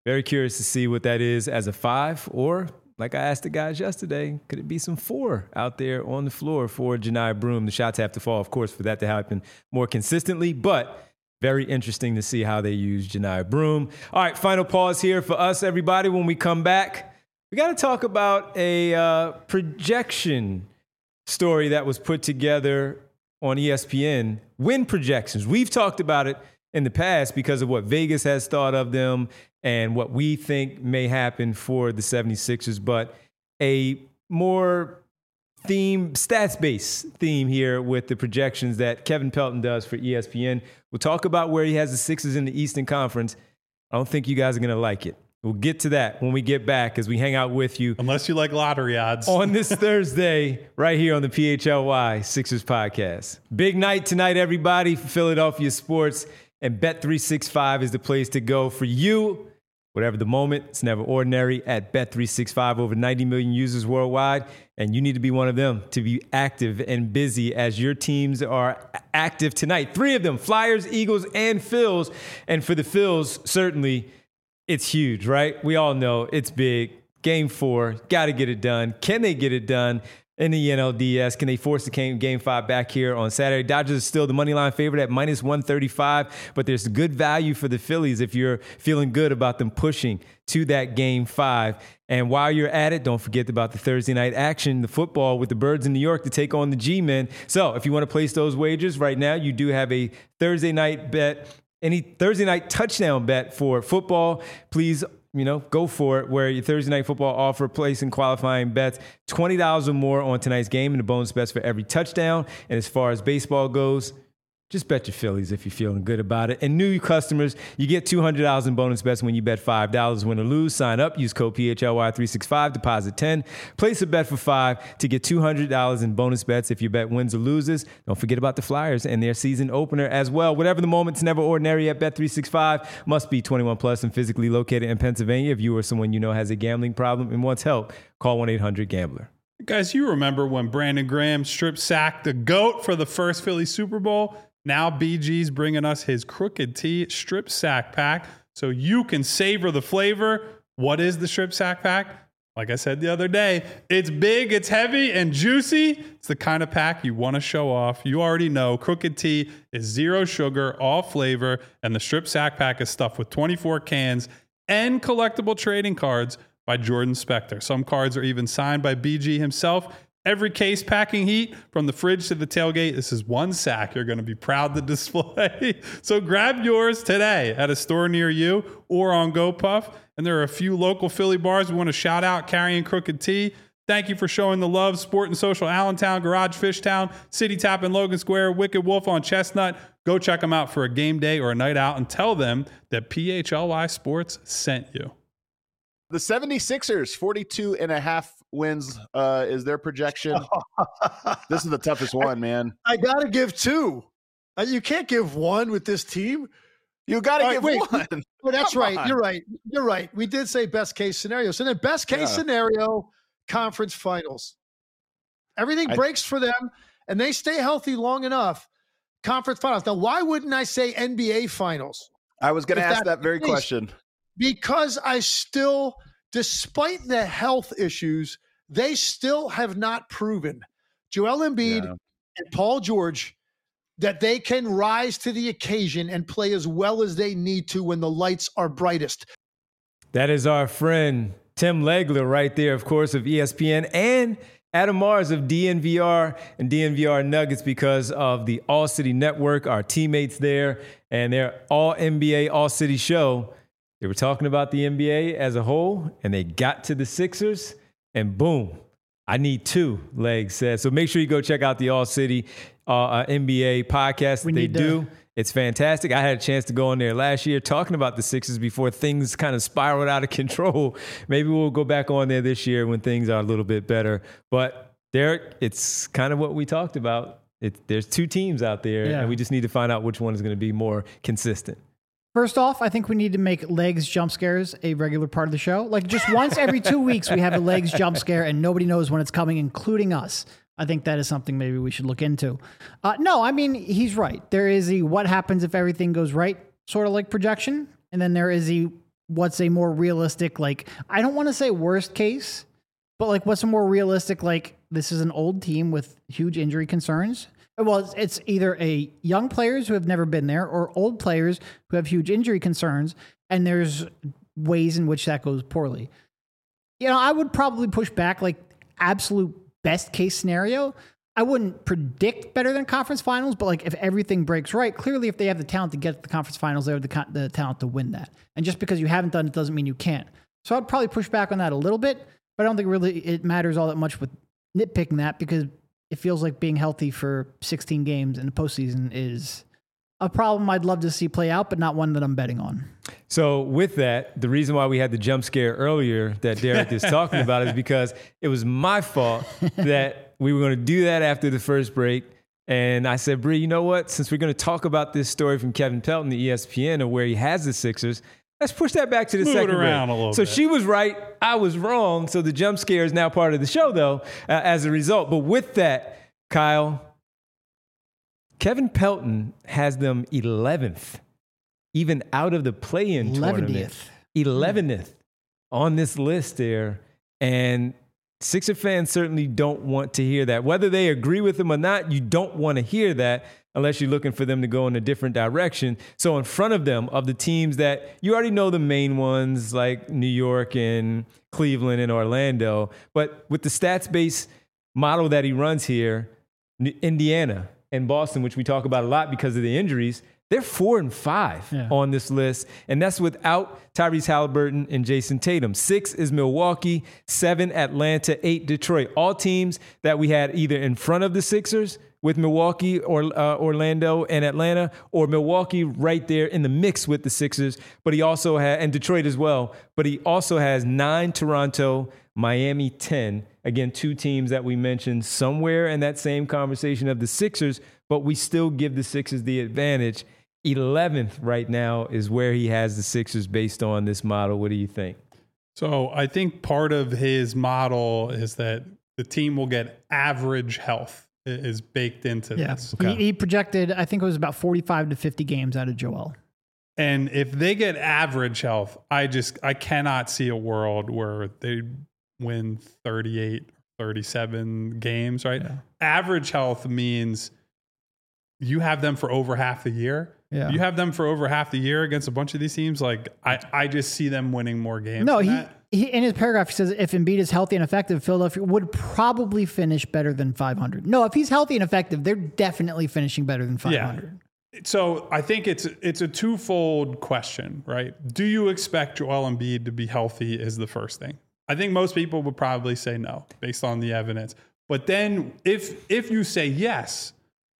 Very curious to see what that is as a five, or like I asked the guys yesterday, could it be some four out there on the floor for Johni Broome? The shots have to fall, of course, for that to happen more consistently, but very interesting to see how they use Johni Broome. All right, final pause here for us, everybody. When we come back, we got to talk about a uh, projection story that was put together on E S P N. Win projections. We've talked about it in the past because of what Vegas has thought of them and what we think may happen for the seventy-sixers, but a more theme, stats-based theme here with the projections that Kevin Pelton does for E S P N. We'll talk about where he has the Sixers in the Eastern Conference. I don't think you guys are going to like it. We'll get to that when we get back as we hang out with you. Unless you like lottery odds. On this Thursday, right here on the P H L Y Sixers podcast. Big night tonight, everybody, for Philadelphia sports. And Bet three sixty-five is the place to go for you. Whatever the moment, it's never ordinary at Bet three sixty-five. Over ninety million users worldwide. And you need to be one of them to be active and busy as your teams are active tonight. Three of them, Flyers, Eagles, and Phils. And for the Phils, certainly, it's huge, right? We all know it's big. Game four, got to get it done. Can they get it done in the N L D S? Can they force the game, game five back here on Saturday? Dodgers are still the money line favorite at minus one thirty-five, but there's good value for the Phillies if you're feeling good about them pushing to that game five. And while you're at it, don't forget about the Thursday night action, the football with the Birds in New York to take on the G-Men. So if you want to place those wagers right now, you do have a Thursday night bet. Any Thursday night touchdown bet for football, please, you know, go for it, where your Thursday night football offer placing qualifying bets, twenty dollars or more on tonight's game and the bonus bets for every touchdown. And as far as baseball goes, just bet your Phillies if you're feeling good about it. And new customers, you get two hundred dollars in bonus bets when you bet five dollars. Win or lose, sign up, use code P H L Y three sixty-five, deposit ten. Place a bet for five to get two hundred dollars in bonus bets if your bet wins or loses. Don't forget about the Flyers and their season opener as well. Whatever the moment's never ordinary at Bet three sixty-five. Must be twenty-one plus and physically located in Pennsylvania. If you or someone you know has a gambling problem and wants help, call one eight hundred gambler. Guys, you remember when Brandon Graham strip sacked the GOAT for the first Philly Super Bowl? Now B G's bringing us his Crooked T strip sack pack so you can savor the flavor. What is the strip sack pack? Like I said the other day, it's big, it's heavy, and juicy. It's the kind of pack you want to show off. You already know Crooked T is zero sugar, all flavor, and the strip sack pack is stuffed with twenty-four cans and collectible trading cards by Jordan Spector. Some cards are even signed by B G himself. Every case packing heat from the fridge to the tailgate. This is one sack you're going to be proud to display. So grab yours today at a store near you or on GoPuff. And there are a few local Philly bars we want to shout out carrying Crooked T. Thank you for showing the love. Sport and Social Allentown, Garage Fishtown, City Tap in Logan Square, Wicked Wolf on Chestnut. Go check them out for a game day or a night out and tell them that P H L Y Sports sent you. The seventy-sixers, forty-two and a half wins uh, is their projection. This is the toughest one, man. I got to give two. Uh, you can't give one with this team. You got to give wait, one. Well, that's Come right. on. You're right. You're right. We did say best case scenario. So then best case Yeah. scenario, conference finals. Everything I- breaks for them, and they stay healthy long enough. Conference finals. Now, why wouldn't I say N B A finals? I was going to If ask that's that the very case. question. Because I still, despite the health issues, they still have not proven, Joel Embiid Yeah. and Paul George, that they can rise to the occasion and play as well as they need to when the lights are brightest. That is our friend Tim Legler right there, of course, of E S P N, and Adam Mars of D N V R and D N V R Nuggets because of the All City Network, our teammates there, and their All N B A All City show. They were talking about the N B A as a whole, and they got to the Sixers, and boom, I need two, Legs said. So make sure you go check out the All City uh, uh, N B A podcast We that they need to- do. It's fantastic. I had a chance to go on there last year talking about the Sixers before things kind of spiraled out of control. Maybe we'll go back on there this year when things are a little bit better. But Derek, it's kind of what we talked about. It, there's two teams out there, Yeah. and we just need to find out which one is going to be more consistent. First off, I think we need to make Legs jump scares a regular part of the show. Like just once every two weeks, we have a Legs jump scare and nobody knows when it's coming, including us. I think that is something maybe we should look into. Uh, no, I mean, he's right. There is a what happens if everything goes right sort of like projection. And then there is a what's a more realistic, like, I don't want to say worst case, but like what's a more realistic, like this is an old team with huge injury concerns. Well, it's, it's either a young players who have never been there or old players who have huge injury concerns. And there's ways in which that goes poorly. You know, I would probably push back, like absolute best case scenario. I wouldn't predict better than conference finals, but like if everything breaks right, clearly if they have the talent to get to the conference finals, they have the, co- the talent to win that. And just because you haven't done it doesn't mean you can't. So I'd probably push back on that a little bit, but I don't think really it matters all that much with nitpicking that, because it feels like being healthy for sixteen games in the postseason is a problem I'd love to see play out, but not one that I'm betting on. So with that, the reason why we had the jump scare earlier that Derek is talking about is because it was my fault that we were going to do that after the first break. And I said, Bree, you know what? Since we're going to talk about this story from Kevin Pelton, the E S P N, of where he has the Sixers, let's push that back to the Move second it around break. a little so bit. she was right. I was wrong. So the jump scare is now part of the show, though, uh, as a result. But with that, Kyle, Kevin Pelton has them eleventh, even out of the play-in tournament. eleventh on this list there. And Sixer fans certainly don't want to hear that. Whether they agree with him or not, you don't want to hear that unless you're looking for them to go in a different direction. So in front of them, of the teams that you already know the main ones like New York and Cleveland and Orlando, but with the stats-based model that he runs here, Indiana and Boston, which we talk about a lot because of the injuries, they're four and five yeah. on this list. And that's without Tyrese Halliburton and Jason Tatum. Six is Milwaukee, seven Atlanta, eight Detroit. All teams that we had either in front of the Sixers with Milwaukee or uh, Orlando and Atlanta, or Milwaukee right there in the mix with the Sixers. But he also had, and Detroit as well, but he also has nine Toronto, Miami ten. Again, two teams that we mentioned somewhere in that same conversation of the Sixers, but we still give the Sixers the advantage. eleventh right now is where he has the Sixers based on this model. What do you think? So I think part of his model is that the team will get average health is baked into yeah. this. Okay. He, he projected, I think it was about forty-five to fifty games out of Joel. And if they get average health, I just, I cannot see a world where they win thirty-eight, thirty-seven games, right? Yeah. Average health means you have them for over half the year. Yeah. You have them for over half the year against a bunch of these teams. Like I, I just see them winning more games. No, than he, that. he in his paragraph he says if Embiid is healthy and effective, Philadelphia would probably finish better than five hundred. No, if he's healthy and effective, they're definitely finishing better than five hundred. Yeah. So I think it's it's a twofold question, right? Do you expect Joel Embiid to be healthy is the first thing. I think most people would probably say no based on the evidence. But then if if you say yes,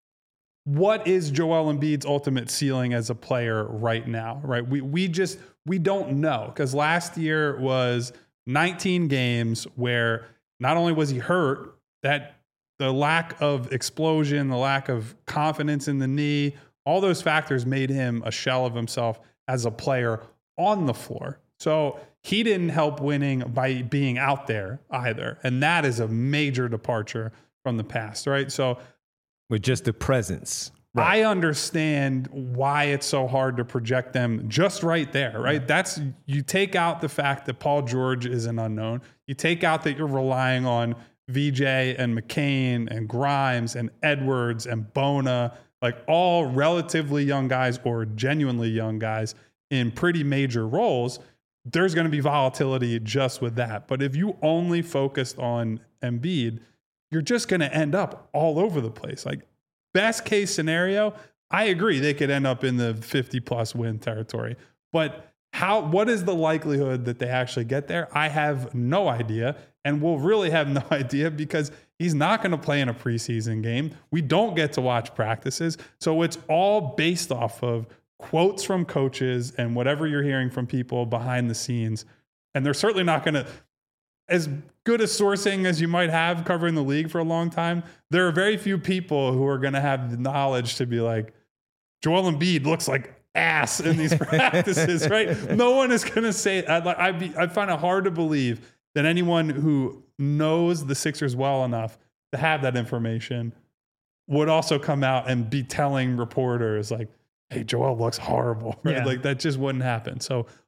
what is Joel Embiid's ultimate ceiling as a player right now, right? We we just, we don't know, because last year was nineteen games where not only was he hurt, that the lack of explosion, the lack of confidence in the knee, all those factors made him a shell of himself as a player on the floor. So he didn't help winning by being out there either. And that is a major departure from the past, right? So with just the presence. Right. I understand why it's so hard to project them just right there, right? Yeah. That's, you take out the fact that Paul George is an unknown. You take out that you're relying on V J and McCain and Grimes and Edwards and Bona, like all relatively young guys or genuinely young guys in pretty major roles. There's going to be volatility just with that. But if you only focused on Embiid, you're just going to end up all over the place. Like best case scenario, I agree they could end up in the fifty plus win territory. But how? What is the likelihood that they actually get there? I have no idea, and we'll really have no idea because he's not going to play in a preseason game. We don't get to watch practices. So it's all based off of quotes from coaches and whatever you're hearing from people behind the scenes. And they're certainly not going to, as good a sourcing as you might have covering the league for a long time, there are very few people who are going to have the knowledge to be like, Joel Embiid looks like ass in these practices, right? No one is going to say, I'd, like, I'd, be, I'd find it hard to believe that anyone who knows the Sixers well enough to have that information would also come out and be telling reporters like, hey, Joel looks horrible, right? Yeah. Like that just wouldn't happen. So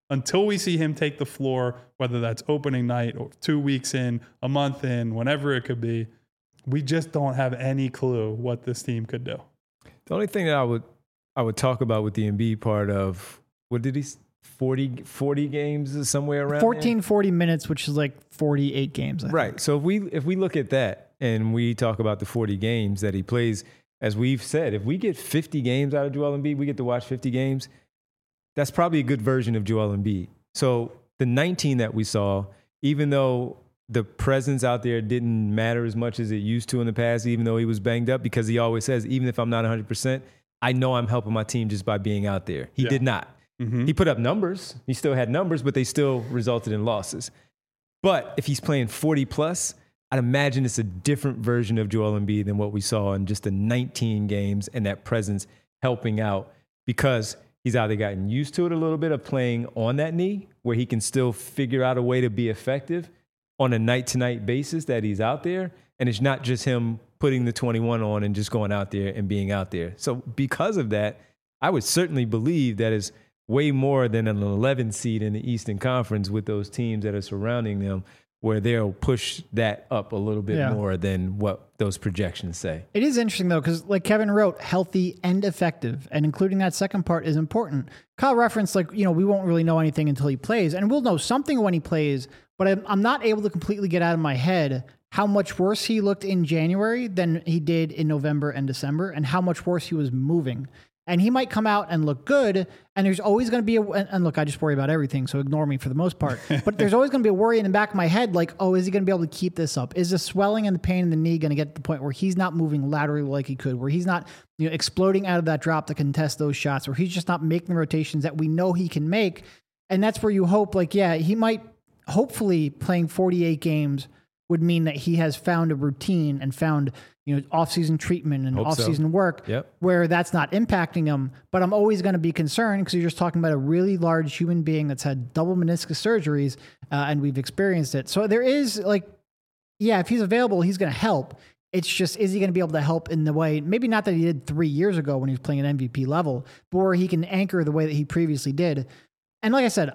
until we see him take the floor, whether that's opening night or two weeks in, a month in, whenever it could be, we just don't have any clue what this team could do. The only thing that I would I would talk about with the Embiid part of, what did he, forty, forty games somewhere around fourteen, there? forty minutes, which is like forty-eight games. I Right. think. So if we if we look at that and we talk about the forty games that he plays, as we've said, if we get fifty games out of Joel Embiid, we get to watch fifty games. That's probably a good version of Joel Embiid. So the nineteen that we saw, even though the presence out there didn't matter as much as it used to in the past, even though he was banged up, because he always says, even if I'm not one hundred percent, I know I'm helping my team just by being out there. He Yeah. did not. Mm-hmm. He put up numbers. He still had numbers, but they still resulted in losses. But if he's playing forty plus, I'd imagine it's a different version of Joel Embiid than what we saw in just the nineteen games, and that presence helping out, because he's either gotten used to it a little bit of playing on that knee, where he can still figure out a way to be effective on a night-to-night basis that he's out there, and it's not just him putting the twenty-one on and just going out there and being out there. So because of that, I would certainly believe that is way more than an eleven seed in the Eastern Conference with those teams that are surrounding them, where they'll push that up a little bit Yeah. more than what those projections say. It is interesting, though, because like Kevin wrote, healthy and effective, and including that second part is important. Kyle referenced, like, you know, we won't really know anything until he plays, and we'll know something when he plays, but I'm, I'm not able to completely get out of my head how much worse he looked in January than he did in November and December, and how much worse he was moving. And he might come out and look good, and there's always going to be a, and and look, I just worry about everything, so ignore me for the most part. But there's always going to be a worry in the back of my head, like, oh, is he going to be able to keep this up? Is the swelling and the pain in the knee going to get to the point where he's not moving laterally like he could, where he's not, you know, exploding out of that drop to contest those shots, where he's just not making the rotations that we know he can make? And that's where you hope, like, yeah, he might, hopefully playing forty-eight games would mean that he has found a routine and found, you know, off-season treatment and Hope so. off-season work Yep. where that's not impacting him. But I'm always going to be concerned because you're just talking about a really large human being that's had double meniscus surgeries, uh, and we've experienced it. So there is, like, yeah, if he's available, he's going to help. It's just, is he going to be able to help in the way, maybe not that he did three years ago when he was playing at M V P level, but where he can anchor the way that he previously did. And like I said,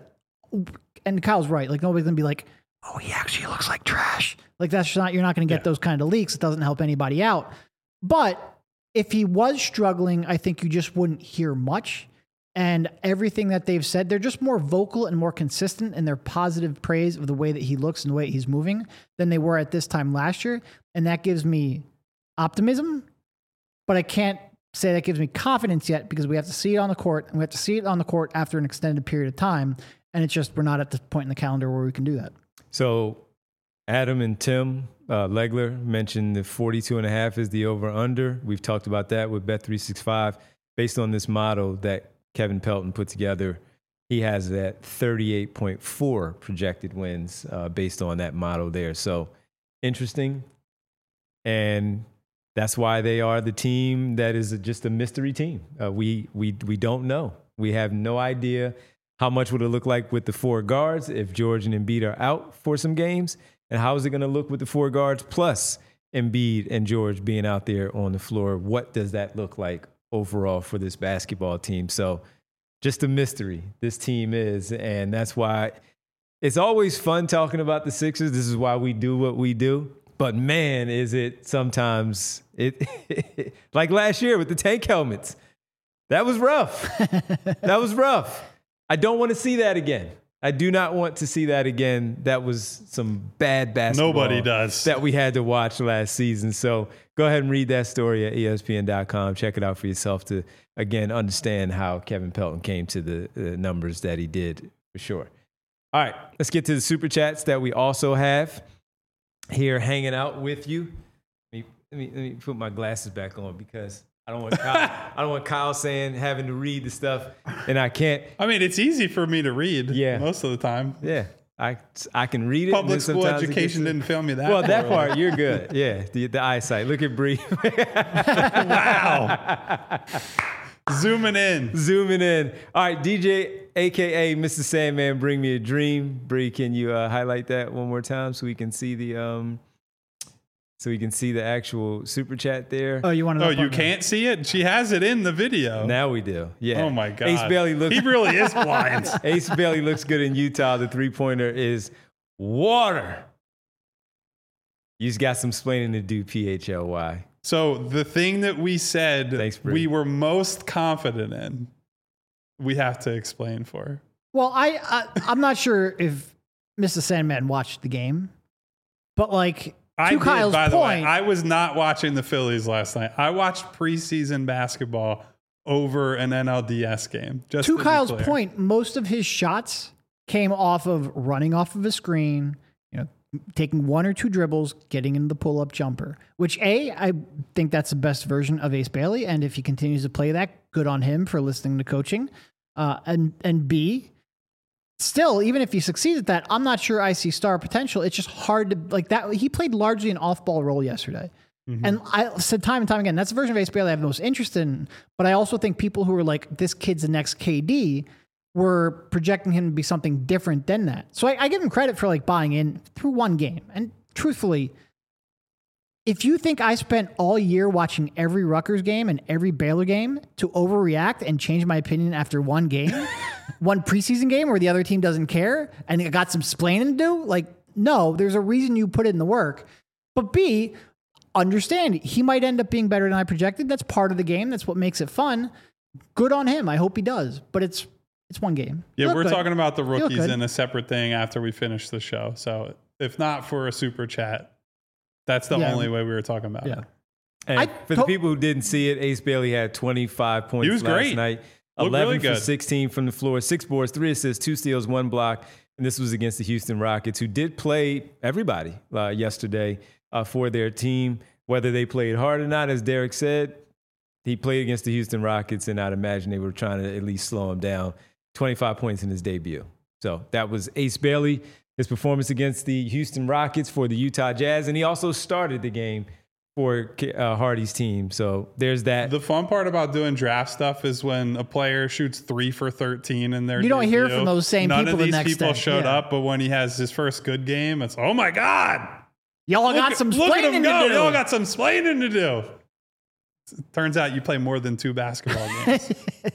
and Kyle's right, like, nobody's going to be like, oh, he actually looks like trash. Like, that's just not, you're not going to get Yeah. those kind of leaks. It doesn't help anybody out. But if he was struggling, I think you just wouldn't hear much. And everything that they've said, they're just more vocal and more consistent in their positive praise of the way that he looks and the way he's moving than they were at this time last year. And that gives me optimism, but I can't say that gives me confidence yet, because we have to see it on the court, and we have to see it on the court after an extended period of time. And it's just, we're not at the point in the calendar where we can do that. So Adam and Tim uh, Legler mentioned the forty-two and a half is the over-under. We've talked about that with Bet three sixty-five. Based on this model that Kevin Pelton put together, he has that thirty-eight point four projected wins uh, based on that model there. So interesting. And that's why they are the team that is just a mystery team. Uh, we, we, we don't know. We have no idea how much would it look like with the four guards if George and Embiid are out for some games? And how is it going to look with the four guards plus Embiid and George being out there on the floor? What does that look like overall for this basketball team? So just a mystery this team is. And that's why it's always fun talking about the Sixers. This is why we do what we do. But man, is it sometimes, it like last year with the tank helmets. That was rough. That was rough. I don't want to see that again. I do not want to see that again. That was some bad basketball. Nobody does. That we had to watch last season. So go ahead and read that story at E S P N dot com. Check it out for yourself to, again, understand how Kevin Pelton came to the uh, numbers that he did, for sure. All right, let's get to the Super Chats that we also have here hanging out with you. Let me, let me, let me put my glasses back on, because I don't want Kyle, I don't want Kyle saying, having to read the stuff, and I can't. I mean, it's easy for me to read Yeah. most of the time. Yeah, I, I can read it. Public and then school sometimes it education gets- didn't fail me that Well, that poorly. part, you're good. Yeah, the, the eyesight. Look at Bree. Wow. Zooming in. Zooming in. All right, D J, a k a. Mister Sandman, Bring Me a Dream. Bree, can you uh, highlight that one more time so we can see the um, so you can see the actual super chat there. Oh, you want to? Oh, you can't see it? She has it in the video. Now we do. Yeah. Oh my God. Ace Bailey looks. He really is blind. Ace Bailey looks good in Utah. The three pointer is water. You just got some explaining to do, P H L Y. So the thing that we said Thanks, Bree. we were most confident in, we have to explain for her. Well, I, I I'm not sure if Mister Sandman watched the game, but like I to did, Kyle's by the point, way. I was not watching the Phillies last night. I watched preseason basketball over an N L D S game. Just to to be Kyle's clear. point, most of his shots came off of running off of a screen, you know, taking one or two dribbles, getting into the pull-up jumper, which A, I think that's the best version of Ace Bailey. And if he continues to play that, good on him for listening to coaching. Uh, and, and B, still, even if he succeeds at that, I'm not sure I see star potential. It's just hard to, like that. He played largely an off-ball role yesterday. Mm-hmm. And I said time and time again, that's the version of Ace Bailey I have the most interest in. But I also think people who are like, this kid's the next K D, were projecting him to be something different than that. So I, I give him credit for like buying in through one game. And truthfully, if you think I spent all year watching every Rutgers game and every Baylor game to overreact and change my opinion after one game, one preseason game where the other team doesn't care and it got some splaining to do, like, no, there's a reason you put in the work. But B, understand he might end up being better than I projected. That's part of the game. That's what makes it fun. Good on him. I hope he does. But it's It's one game. Yeah, Look we're good. talking about the rookies good. in a separate thing after we finish the show. So if not for a super chat, that's the Yeah. only way we were talking about Yeah. it. And I for to- the people who didn't see it, Ace Bailey had twenty-five points He was last great. night. Looked eleven really for good. sixteen from the floor, six boards, three assists, two steals, one block. And this was against the Houston Rockets, who did play everybody uh, yesterday uh, for their team. Whether they played hard or not, as Derek said, he played against the Houston Rockets, and I'd imagine they were trying to at least slow him down. twenty-five points in his debut. So that was Ace Bailey, his performance against the Houston Rockets for the Utah Jazz. And he also started the game for uh, Hardy's team. So there's that. The fun part about doing draft stuff is when a player shoots three for thirteen in their You don't hear debut, from those same none people of the these next people day. showed Yeah. up, but when he has his first good game, it's, oh my God. Y'all Look got at- some look at him splaining go. to do. Y'all got some splaining to do. Turns out you play more than two basketball games.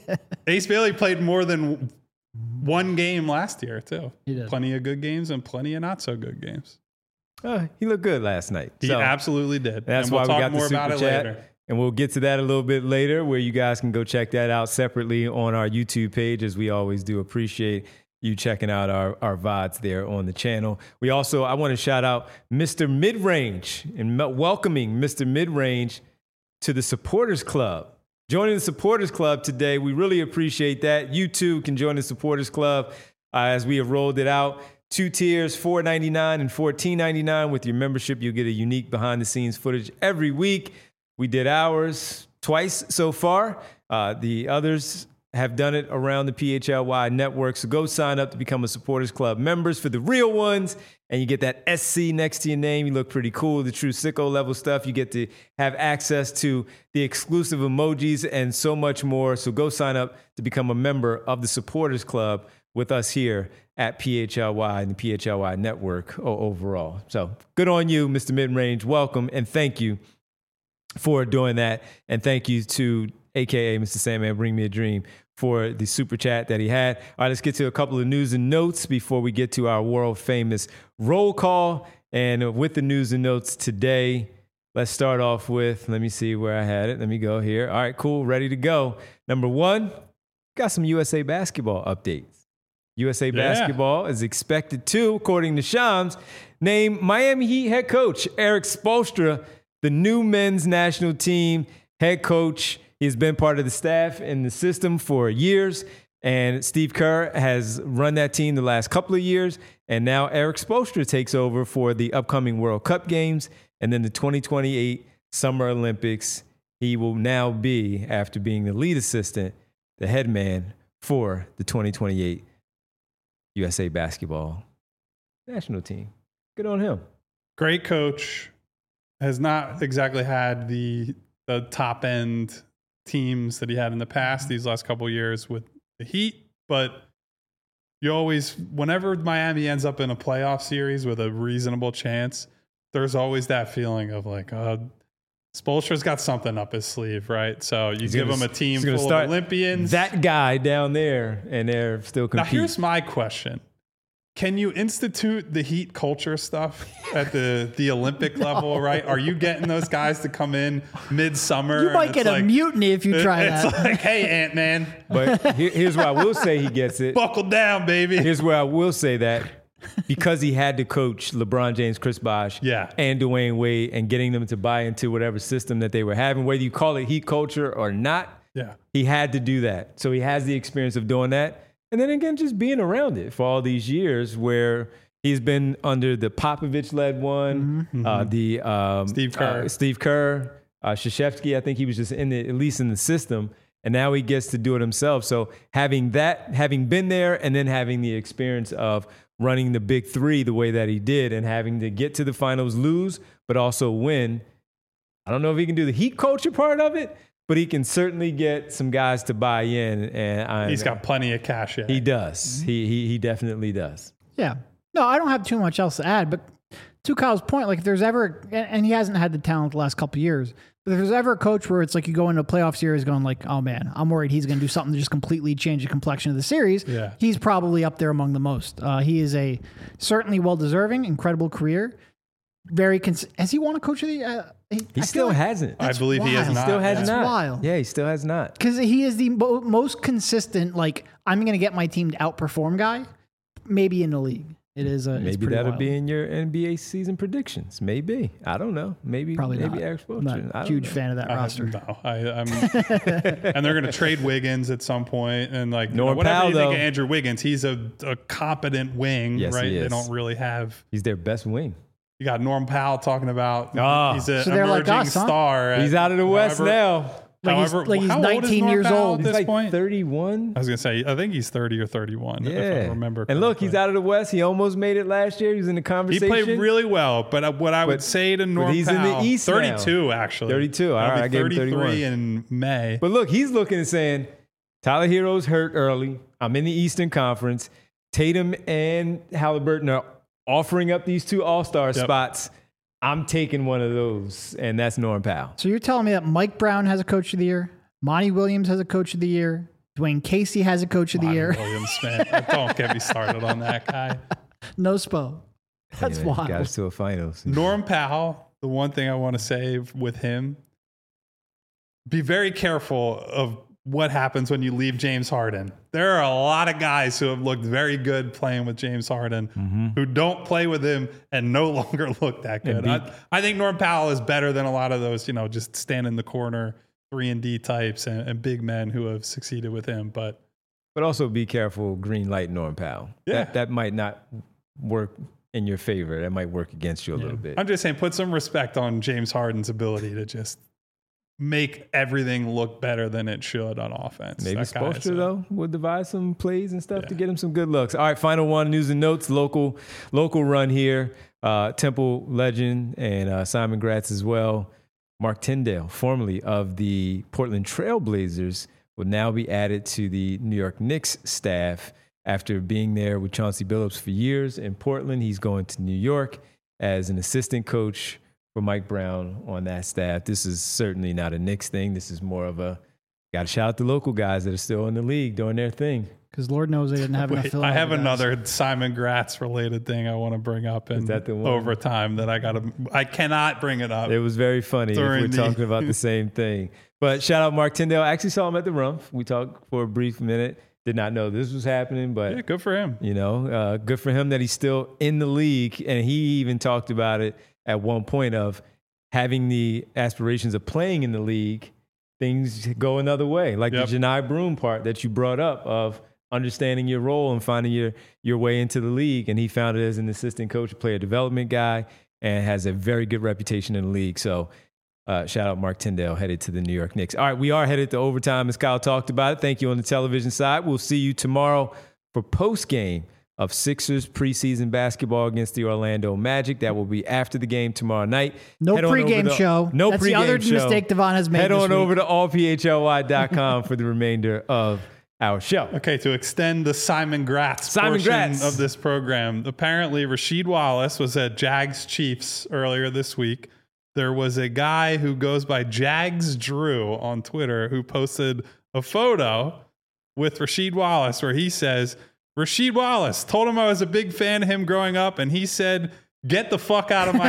Ace Bailey played more than one game last year, too. He did. Plenty of good games and plenty of not so good games. Uh, he looked good last night. He So absolutely did. that's and we'll why talk we got more the super about it chat. later. And we'll get to that a little bit later, where you guys can go check that out separately on our YouTube page, as we always do. Appreciate you checking out our, our V O Ds there on the channel. We also, I want to shout out Mister Midrange and me- welcoming Mister Midrange to the Supporters Club. Joining the Supporters Club today, we really appreciate that. You too can join the Supporters Club uh, as we have rolled it out. Two tiers, four ninety-nine and fourteen ninety-nine. With your membership, you'll get a unique behind-the-scenes footage every week. We did ours twice so far. Uh, the others have done it around the P H L Y network. So go sign up to become a Supporters Club members for the real ones. And you get that S C next to your name. You look pretty cool. The true sicko level stuff. You get to have access to the exclusive emojis and so much more. So go sign up to become a member of the Supporters Club with us here at P H L Y and the P H L Y network overall. So good on you, Mister Midrange. Welcome and thank you for doing that. And thank you to A K A Mister Sandman, Bring Me a Dream, for the super chat that he had. All right, let's get to a couple of news and notes before we get to our world famous roll call. And with the news and notes today, let's start off with, let me see where I had it. Let me go here. All right, cool, ready to go. Number one, got some U S A basketball updates. U S A Yeah. basketball is expected to, according to Shams, name Miami Heat head coach Eric Spoelstra the new men's national team head coach. He's been part of the staff and the system for years, and Steve Kerr has run that team the last couple of years, and now Eric Spoelstra takes over for the upcoming World Cup games and then the twenty twenty-eight Summer Olympics. He will now be, after being the lead assistant, the head man for the twenty twenty-eight U S A basketball national team. Good on him. Great coach. Has not exactly had the the top end teams that he had in the past these last couple of years with the Heat, but you always, whenever Miami ends up in a playoff series with a reasonable chance, there's always that feeling of like, uh, Spoelstra's got something up his sleeve, right? So you He's give gonna- him a team he's gonna full start of Olympians. That guy down there, and they're still Now, competing. here's my question. Can you institute the heat culture stuff at the, the Olympic level, right? Are you getting those guys to come in midsummer? You and might it's get a like- mutiny if you try It's that. like, hey, Ant-Man, But here- here's why I will say he gets it. buckle down, baby. Here's where I will say that because he had to coach LeBron James, Chris Bosh, Yeah. and Dwayne Wade, and getting them to buy into whatever system that they were having, whether you call it heat culture or not, Yeah. he had to do that. So he has the experience of doing that. And then again, just being around it for all these years where he's been under the Popovich-led one, uh, the um, Steve Kerr. uh, Steve Kerr, uh, Krzyzewski. I think he was just in the, at least in the system. And now he gets to do it himself. So having that, having been there, and then having the experience of running the big three the way that he did, and having to get to the finals, lose, but also win. I don't know if he can do the heat culture part of it, but he can certainly get some guys to buy in. And I, He's got plenty of cash. he does. He, he he definitely does. Yeah. No, I don't have too much else to add, but to Kyle's point, like if there's ever, and he hasn't had the talent the last couple of years, but if there's ever a coach where it's like you go into a playoff series going like, oh man, I'm worried he's going to do something to just completely change the complexion of the series. Yeah. He's probably up there among the most. Uh, he is a certainly well-deserving, incredible career. Very, cons- has he won a coach of the, uh, he, He still hasn't. I believe he has wild. not. Still has That's not. wild. Yeah, he still has not. Because he is the mo- most consistent, like, I'm going to get my team to outperform guy, maybe in the league. It is a it's Maybe pretty that'll wild. be in your N B A season predictions. Maybe. I don't know. Maybe Probably maybe not. Eric I'm Spoelstra. not I a don't huge know. fan of that I, roster. no, I, I'm, and they're going to trade Wiggins at some point, and like you know, Norm whatever Powell, you think though. of Andrew Wiggins, he's a, a competent wing, Yes, right? he They is. don't really have. He's their best wing. You got Norm Powell talking about Ah. he's an So they're like emerging us, huh? star. at He's out of the West however- now. Like he's- however- like he's how old is nineteen Norm years Powell old. At He's this like point, thirty-one. I was gonna say I think he's thirty or thirty-one. Yeah. If I remember. And look, he's correctly. out of the West. He almost made it last year. He was in the He conversation. played really well, but uh, what I would But- say to Norm he's in the Powell, East now. thirty-two actually, thirty-two. All He'll right, be I gave him thirty-three thirty-one. in May. But look, he's looking and saying, Tyler Hero's hurt early. I'm in the Eastern Conference. Tatum and Halliburton are offering up these two All-Star Yep. spots. I'm taking one of those, and that's Norm Powell. So you're telling me that Mike Brown has a coach of the year, Monty Williams has a coach of the year, Dwayne Casey has a coach of the Monty year, Williams, man. Don't get me started on that guy. no Spo. That's Anyway, wild. Got us to a finals. Norm Powell, the one thing I want to say with him, be very careful of what happens when you leave James Harden. There are a lot of guys who have looked very good playing with James Harden Mm-hmm. who don't play with him and no longer look that good. beat- I, I think Norm Powell is better than a lot of those, you know, just stand in the corner, three and D types and, and big men who have succeeded with him. But But also be careful, green light Norm Powell. Yeah. That, that might not work in your favor. That might work against you a little bit. I'm just saying, put some respect on James Harden's ability to just make everything look better than it should on offense. Maybe That guy is Spoelstra, a- though, will devise some plays and stuff to Yeah. get him some good looks. All right, final one, news and notes, local local run here. Uh, Temple legend and uh, Simon Gratz as well. Mark Tyndale, formerly of the Portland Trail Blazers, will now be added to the New York Knicks staff after being there with Chauncey Billups for years in Portland. He's going to New York as an assistant coach for Mike Brown on that staff. This is certainly not a Knicks thing. This is more of a, got to shout out the local guys that are still in the league doing their thing. Because Lord knows they didn't have enough Wait, I Philadelphia have guys. another Simon Gratz related thing I want to bring up in that the one? overtime that I got to, I cannot bring it up. It was very funny if During we're the- talking about the same thing. But shout out Mark Tyndale. I actually saw him at the Rumpf. We talked for a brief minute. Did not know this was happening, but Yeah, good for him. you know, uh, good for him that he's still in the league. And he even talked about it at one point of having the aspirations of playing in the league. Things go another way, like Yep. the Janai Broom part that you brought up of understanding your role and finding your your way into the league. And he found it as an assistant coach, player development guy, and has a very good reputation in the league. So uh, shout out Mark Tyndale, headed to the New York Knicks. All right, we are headed to overtime, as Kyle talked about it. Thank you on the television side. We'll see you tomorrow for post-game of Sixers preseason basketball against the Orlando Magic. That will be after the game tomorrow night. No Head on over pregame to- show. No That's pregame the other show. mistake Devon has made Head this on week. over to all p h l y dot com for the remainder of our show. Okay, to extend the Simon Gratz Simon portion Gratz. of this program, apparently Rasheed Wallace was at Jags Chiefs earlier this week. There was a guy who goes by Jags Drew on Twitter who posted a photo with Rasheed Wallace where he says, Rasheed Wallace, told him I was a big fan of him growing up, and he said, get the fuck out of my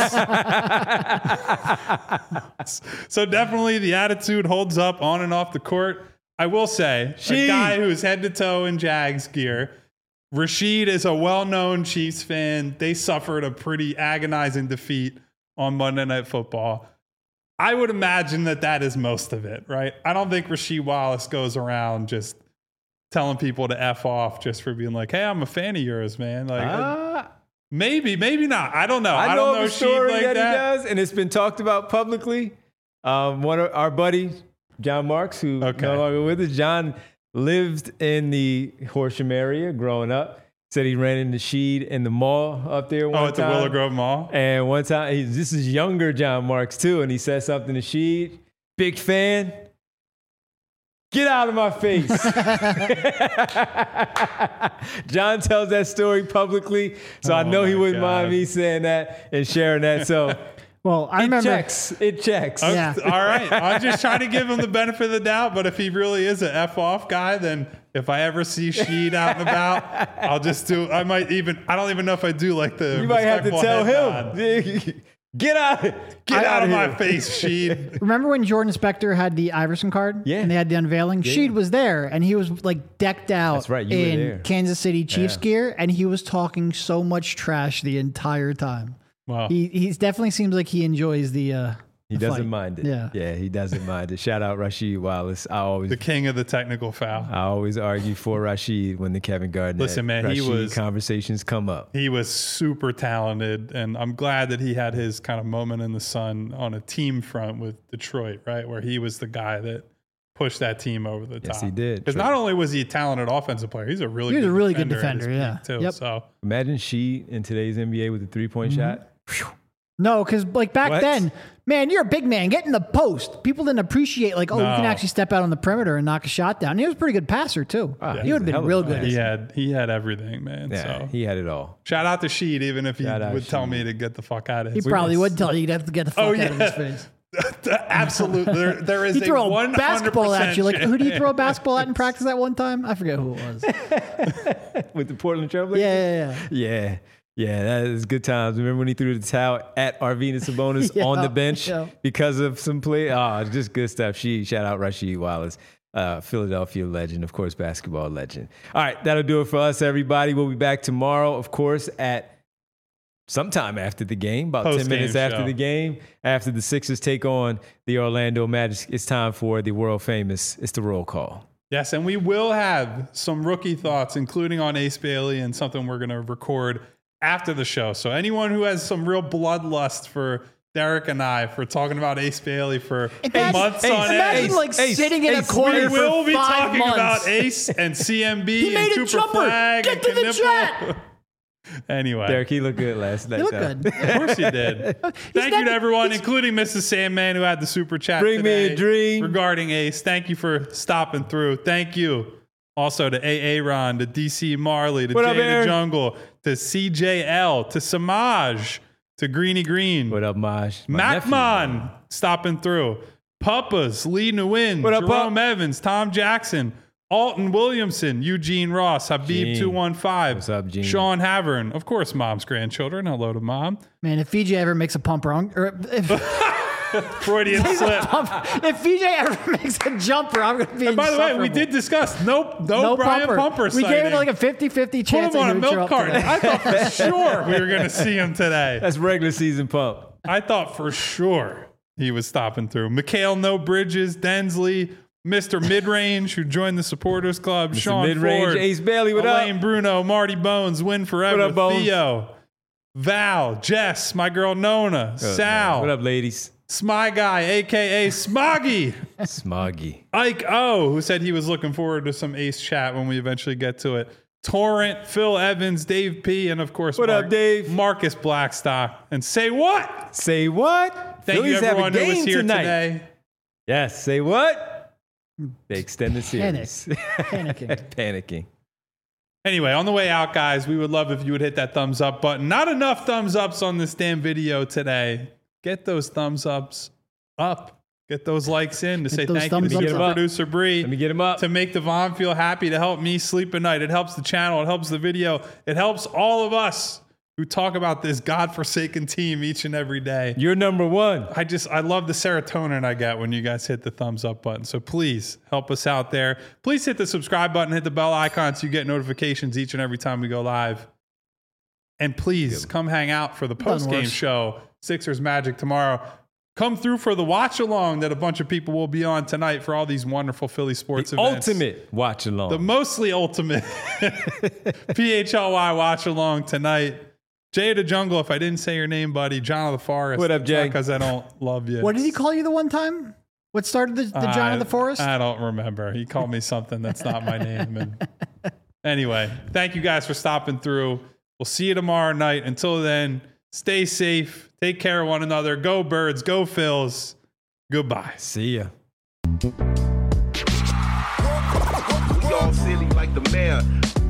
face. So definitely the attitude holds up on and off the court. I will say, Sheed. a guy who's head to toe in Jags gear, Rasheed is a well-known Chiefs fan. They suffered a pretty agonizing defeat on Monday Night Football. I would imagine that that is most of it, right? I don't think Rasheed Wallace goes around just telling people to F off just for being like, hey, I'm a fan of yours, man. Like, Ah, maybe, maybe not. I don't know. I, I, know don't of know a story Sheed like that, that. he does, and it's been talked about publicly. Um, one of our buddy, John Marks, who Okay. no longer with us. John lived in the Horsham area growing up. Said he ran into Sheed in the mall up there one Oh, at the time. Willow Grove Mall? And one time, he, this is younger John Marks too, and he said something to Sheed. Big fan. Get out of my face. John tells that story publicly, so I Oh know he my wouldn't mind God. me saying that and sharing that. So Well, I it remember. checks. It checks. Okay, Yeah. All right. I'm just trying to give him the benefit of the doubt, but if he really is an F off guy, then if I ever see Sheed out and about, I'll just do, I might even, I don't even know if I do like the You might have to respectful tell head him. nod. Get out. Get out of here. my face, Sheed. Remember when Jordan Spector had the Iverson card? Yeah. And they had the unveiling? Sheed was there, and he was like decked out That's right, you were in there. Kansas City Chiefs Yeah. gear, and he was talking so much trash the entire time. Wow. He he's definitely seems like he enjoys the. Uh, He the doesn't fight. mind it. Yeah. Yeah, he doesn't mind it. Shout out Rasheed Wallace. I always The king of the technical foul. I always argue for Rasheed when the Kevin Garnett Listen, man, he Rasheed was- conversations come up. He was super talented, and I'm glad that he had his kind of moment in the sun on a team front with Detroit, right? Where he was the guy that pushed that team over the top. Yes, he did. Because not only was he a talented offensive player, he's a really He was good a really good defender at his defender, peak, yeah. Too. Yep. So Imagine Sheed in today's N B A with a three point Mm-hmm. shot. No, because like back What? then, man, you're a big man. Get in the post. People didn't appreciate like, oh, you can No. actually step out on the perimeter and knock a shot down. And he was a pretty good passer too. Ah, he he's would have a hell been of a real good. passer. he had he had everything, man. Yeah, so he had it all. shout out to Sheed, even if he Shout out would tell Sheed. me to get the fuck out of He his probably face. would tell you you'd have to get the fuck Oh, out of his yeah. face. Absolutely. There, there is He threw a a one basketball at you. Like, who did he throw a basketball at in chance. practice that one time? I forget who it was. Yeah, With the Portland Trailblazers? yeah, yeah. Yeah. Yeah, that is good times. Remember when he threw the towel at Arvina Sabonis Yeah, on the bench yeah. because of some play? Oh, just good stuff. She shout out Rasheed Wallace, uh, Philadelphia legend, of course, basketball legend. All right, that'll do it for us, everybody. We'll be back tomorrow, of course, at sometime after the game, about ten Post-game minutes after show. the game, after the Sixers take on the Orlando Magic. It's time for the world famous. It's the roll call. Yes, and we will have some rookie thoughts, including on Ace Bailey and something we're going to record after the show. So anyone who has some real bloodlust for Derek and I for talking about Ace Bailey for Imagine- months Ace, on Imagine end, Ace, like Ace, sitting in a Ace, corner we will for be five talking months. about Ace and C M B He and made a Cooper jumper. Flag Get and to the Knipple. chat. Anyway. Derek, he looked good last night. You look though. good. Of course he did. Thank you never- to everyone, he's- including Missus Sandman, who had the super chat Bring me today a dream. regarding Ace. Thank you for stopping through. Thank you also to A A Ron, to D C Marley, to What Jay up, the Aaron? Jungle, to C J L, to Samaj, to Greeny Green, What up, Maj? My nephew. Macmon stopping through, Puppas, Lee Nguyen, What up, Jerome Pup? Evans, Tom Jackson, Alton Williamson, Eugene Ross, Habib Gene. two one five, What's up, Gene? Sean Havern, of course, Mom's grandchildren. Hello to Mom. Man, if V J ever makes a pump wrong, or if, Freudian slip. pump, if V J ever makes a jumper, I'm going to be And by the way, we insufferable. did discuss no, no, no Brian pumper. Pumper. We gave it sighting. like a fifty-fifty Put chance him on that a he would show milk up carton. today. I thought for sure we were going to see him today. That's regular season pump. I thought for sure he was stopping through. Mikhail No Bridges, Densley, Mister Midrange, who joined the Supporters Club, Mister Sean Midrange, Ford, Ace Bailey, what up? Elaine Bruno, Marty Bones, Win Forever, What up, Bones? Theo, Val, Jess, my girl Nona, Sal, What up, ladies? Smy Guy, a k a. Smoggy, Smoggy. Ike O, who said he was looking forward to some Ace chat when we eventually get to it. Torrent, Phil Evans, Dave P, and of course, What up, Dave? Marcus Blackstock. And say what? Say what? Thank Phillies you, everyone have a who game was here tonight. today. Yes, say what? The extended series. Panic. Panicking. Panicking. Anyway, on the way out, guys, we would love if you would hit that thumbs up button. Not enough thumbs ups on this damn video today. Get those thumbs ups up. Get those likes in to Get say those thank you thumbs to up. Mister Let me Producer Bree. Let me get him up. To make Devon feel happy, to help me sleep at night. It helps the channel. It helps the video. It helps all of us who talk about this godforsaken team each and every day. You're number one. I just, I love the serotonin I get when you guys hit the thumbs up button. So please help us out there. Please hit the subscribe button, hit the bell icon so you get notifications each and every time we go live. And please come hang out for the post game worse. show, Sixers Magic tomorrow. Come through for the watch along that a bunch of people will be on tonight for all these wonderful Philly sports The events. ultimate watch along. The mostly ultimate P H L Y watch along tonight. Jay of the Jungle, if I didn't say your name, buddy. John of the Forest. What up, Jay? Because I don't love you. What did he call you the one time? What started the, the John I- of the Forest? I don't remember. He called me something that's not my name. And anyway, thank you guys for stopping through. We'll see you tomorrow night. Until then, stay safe. Take care of one another. Go Birds. Go Phils. Goodbye. See ya. We all silly like the mayor.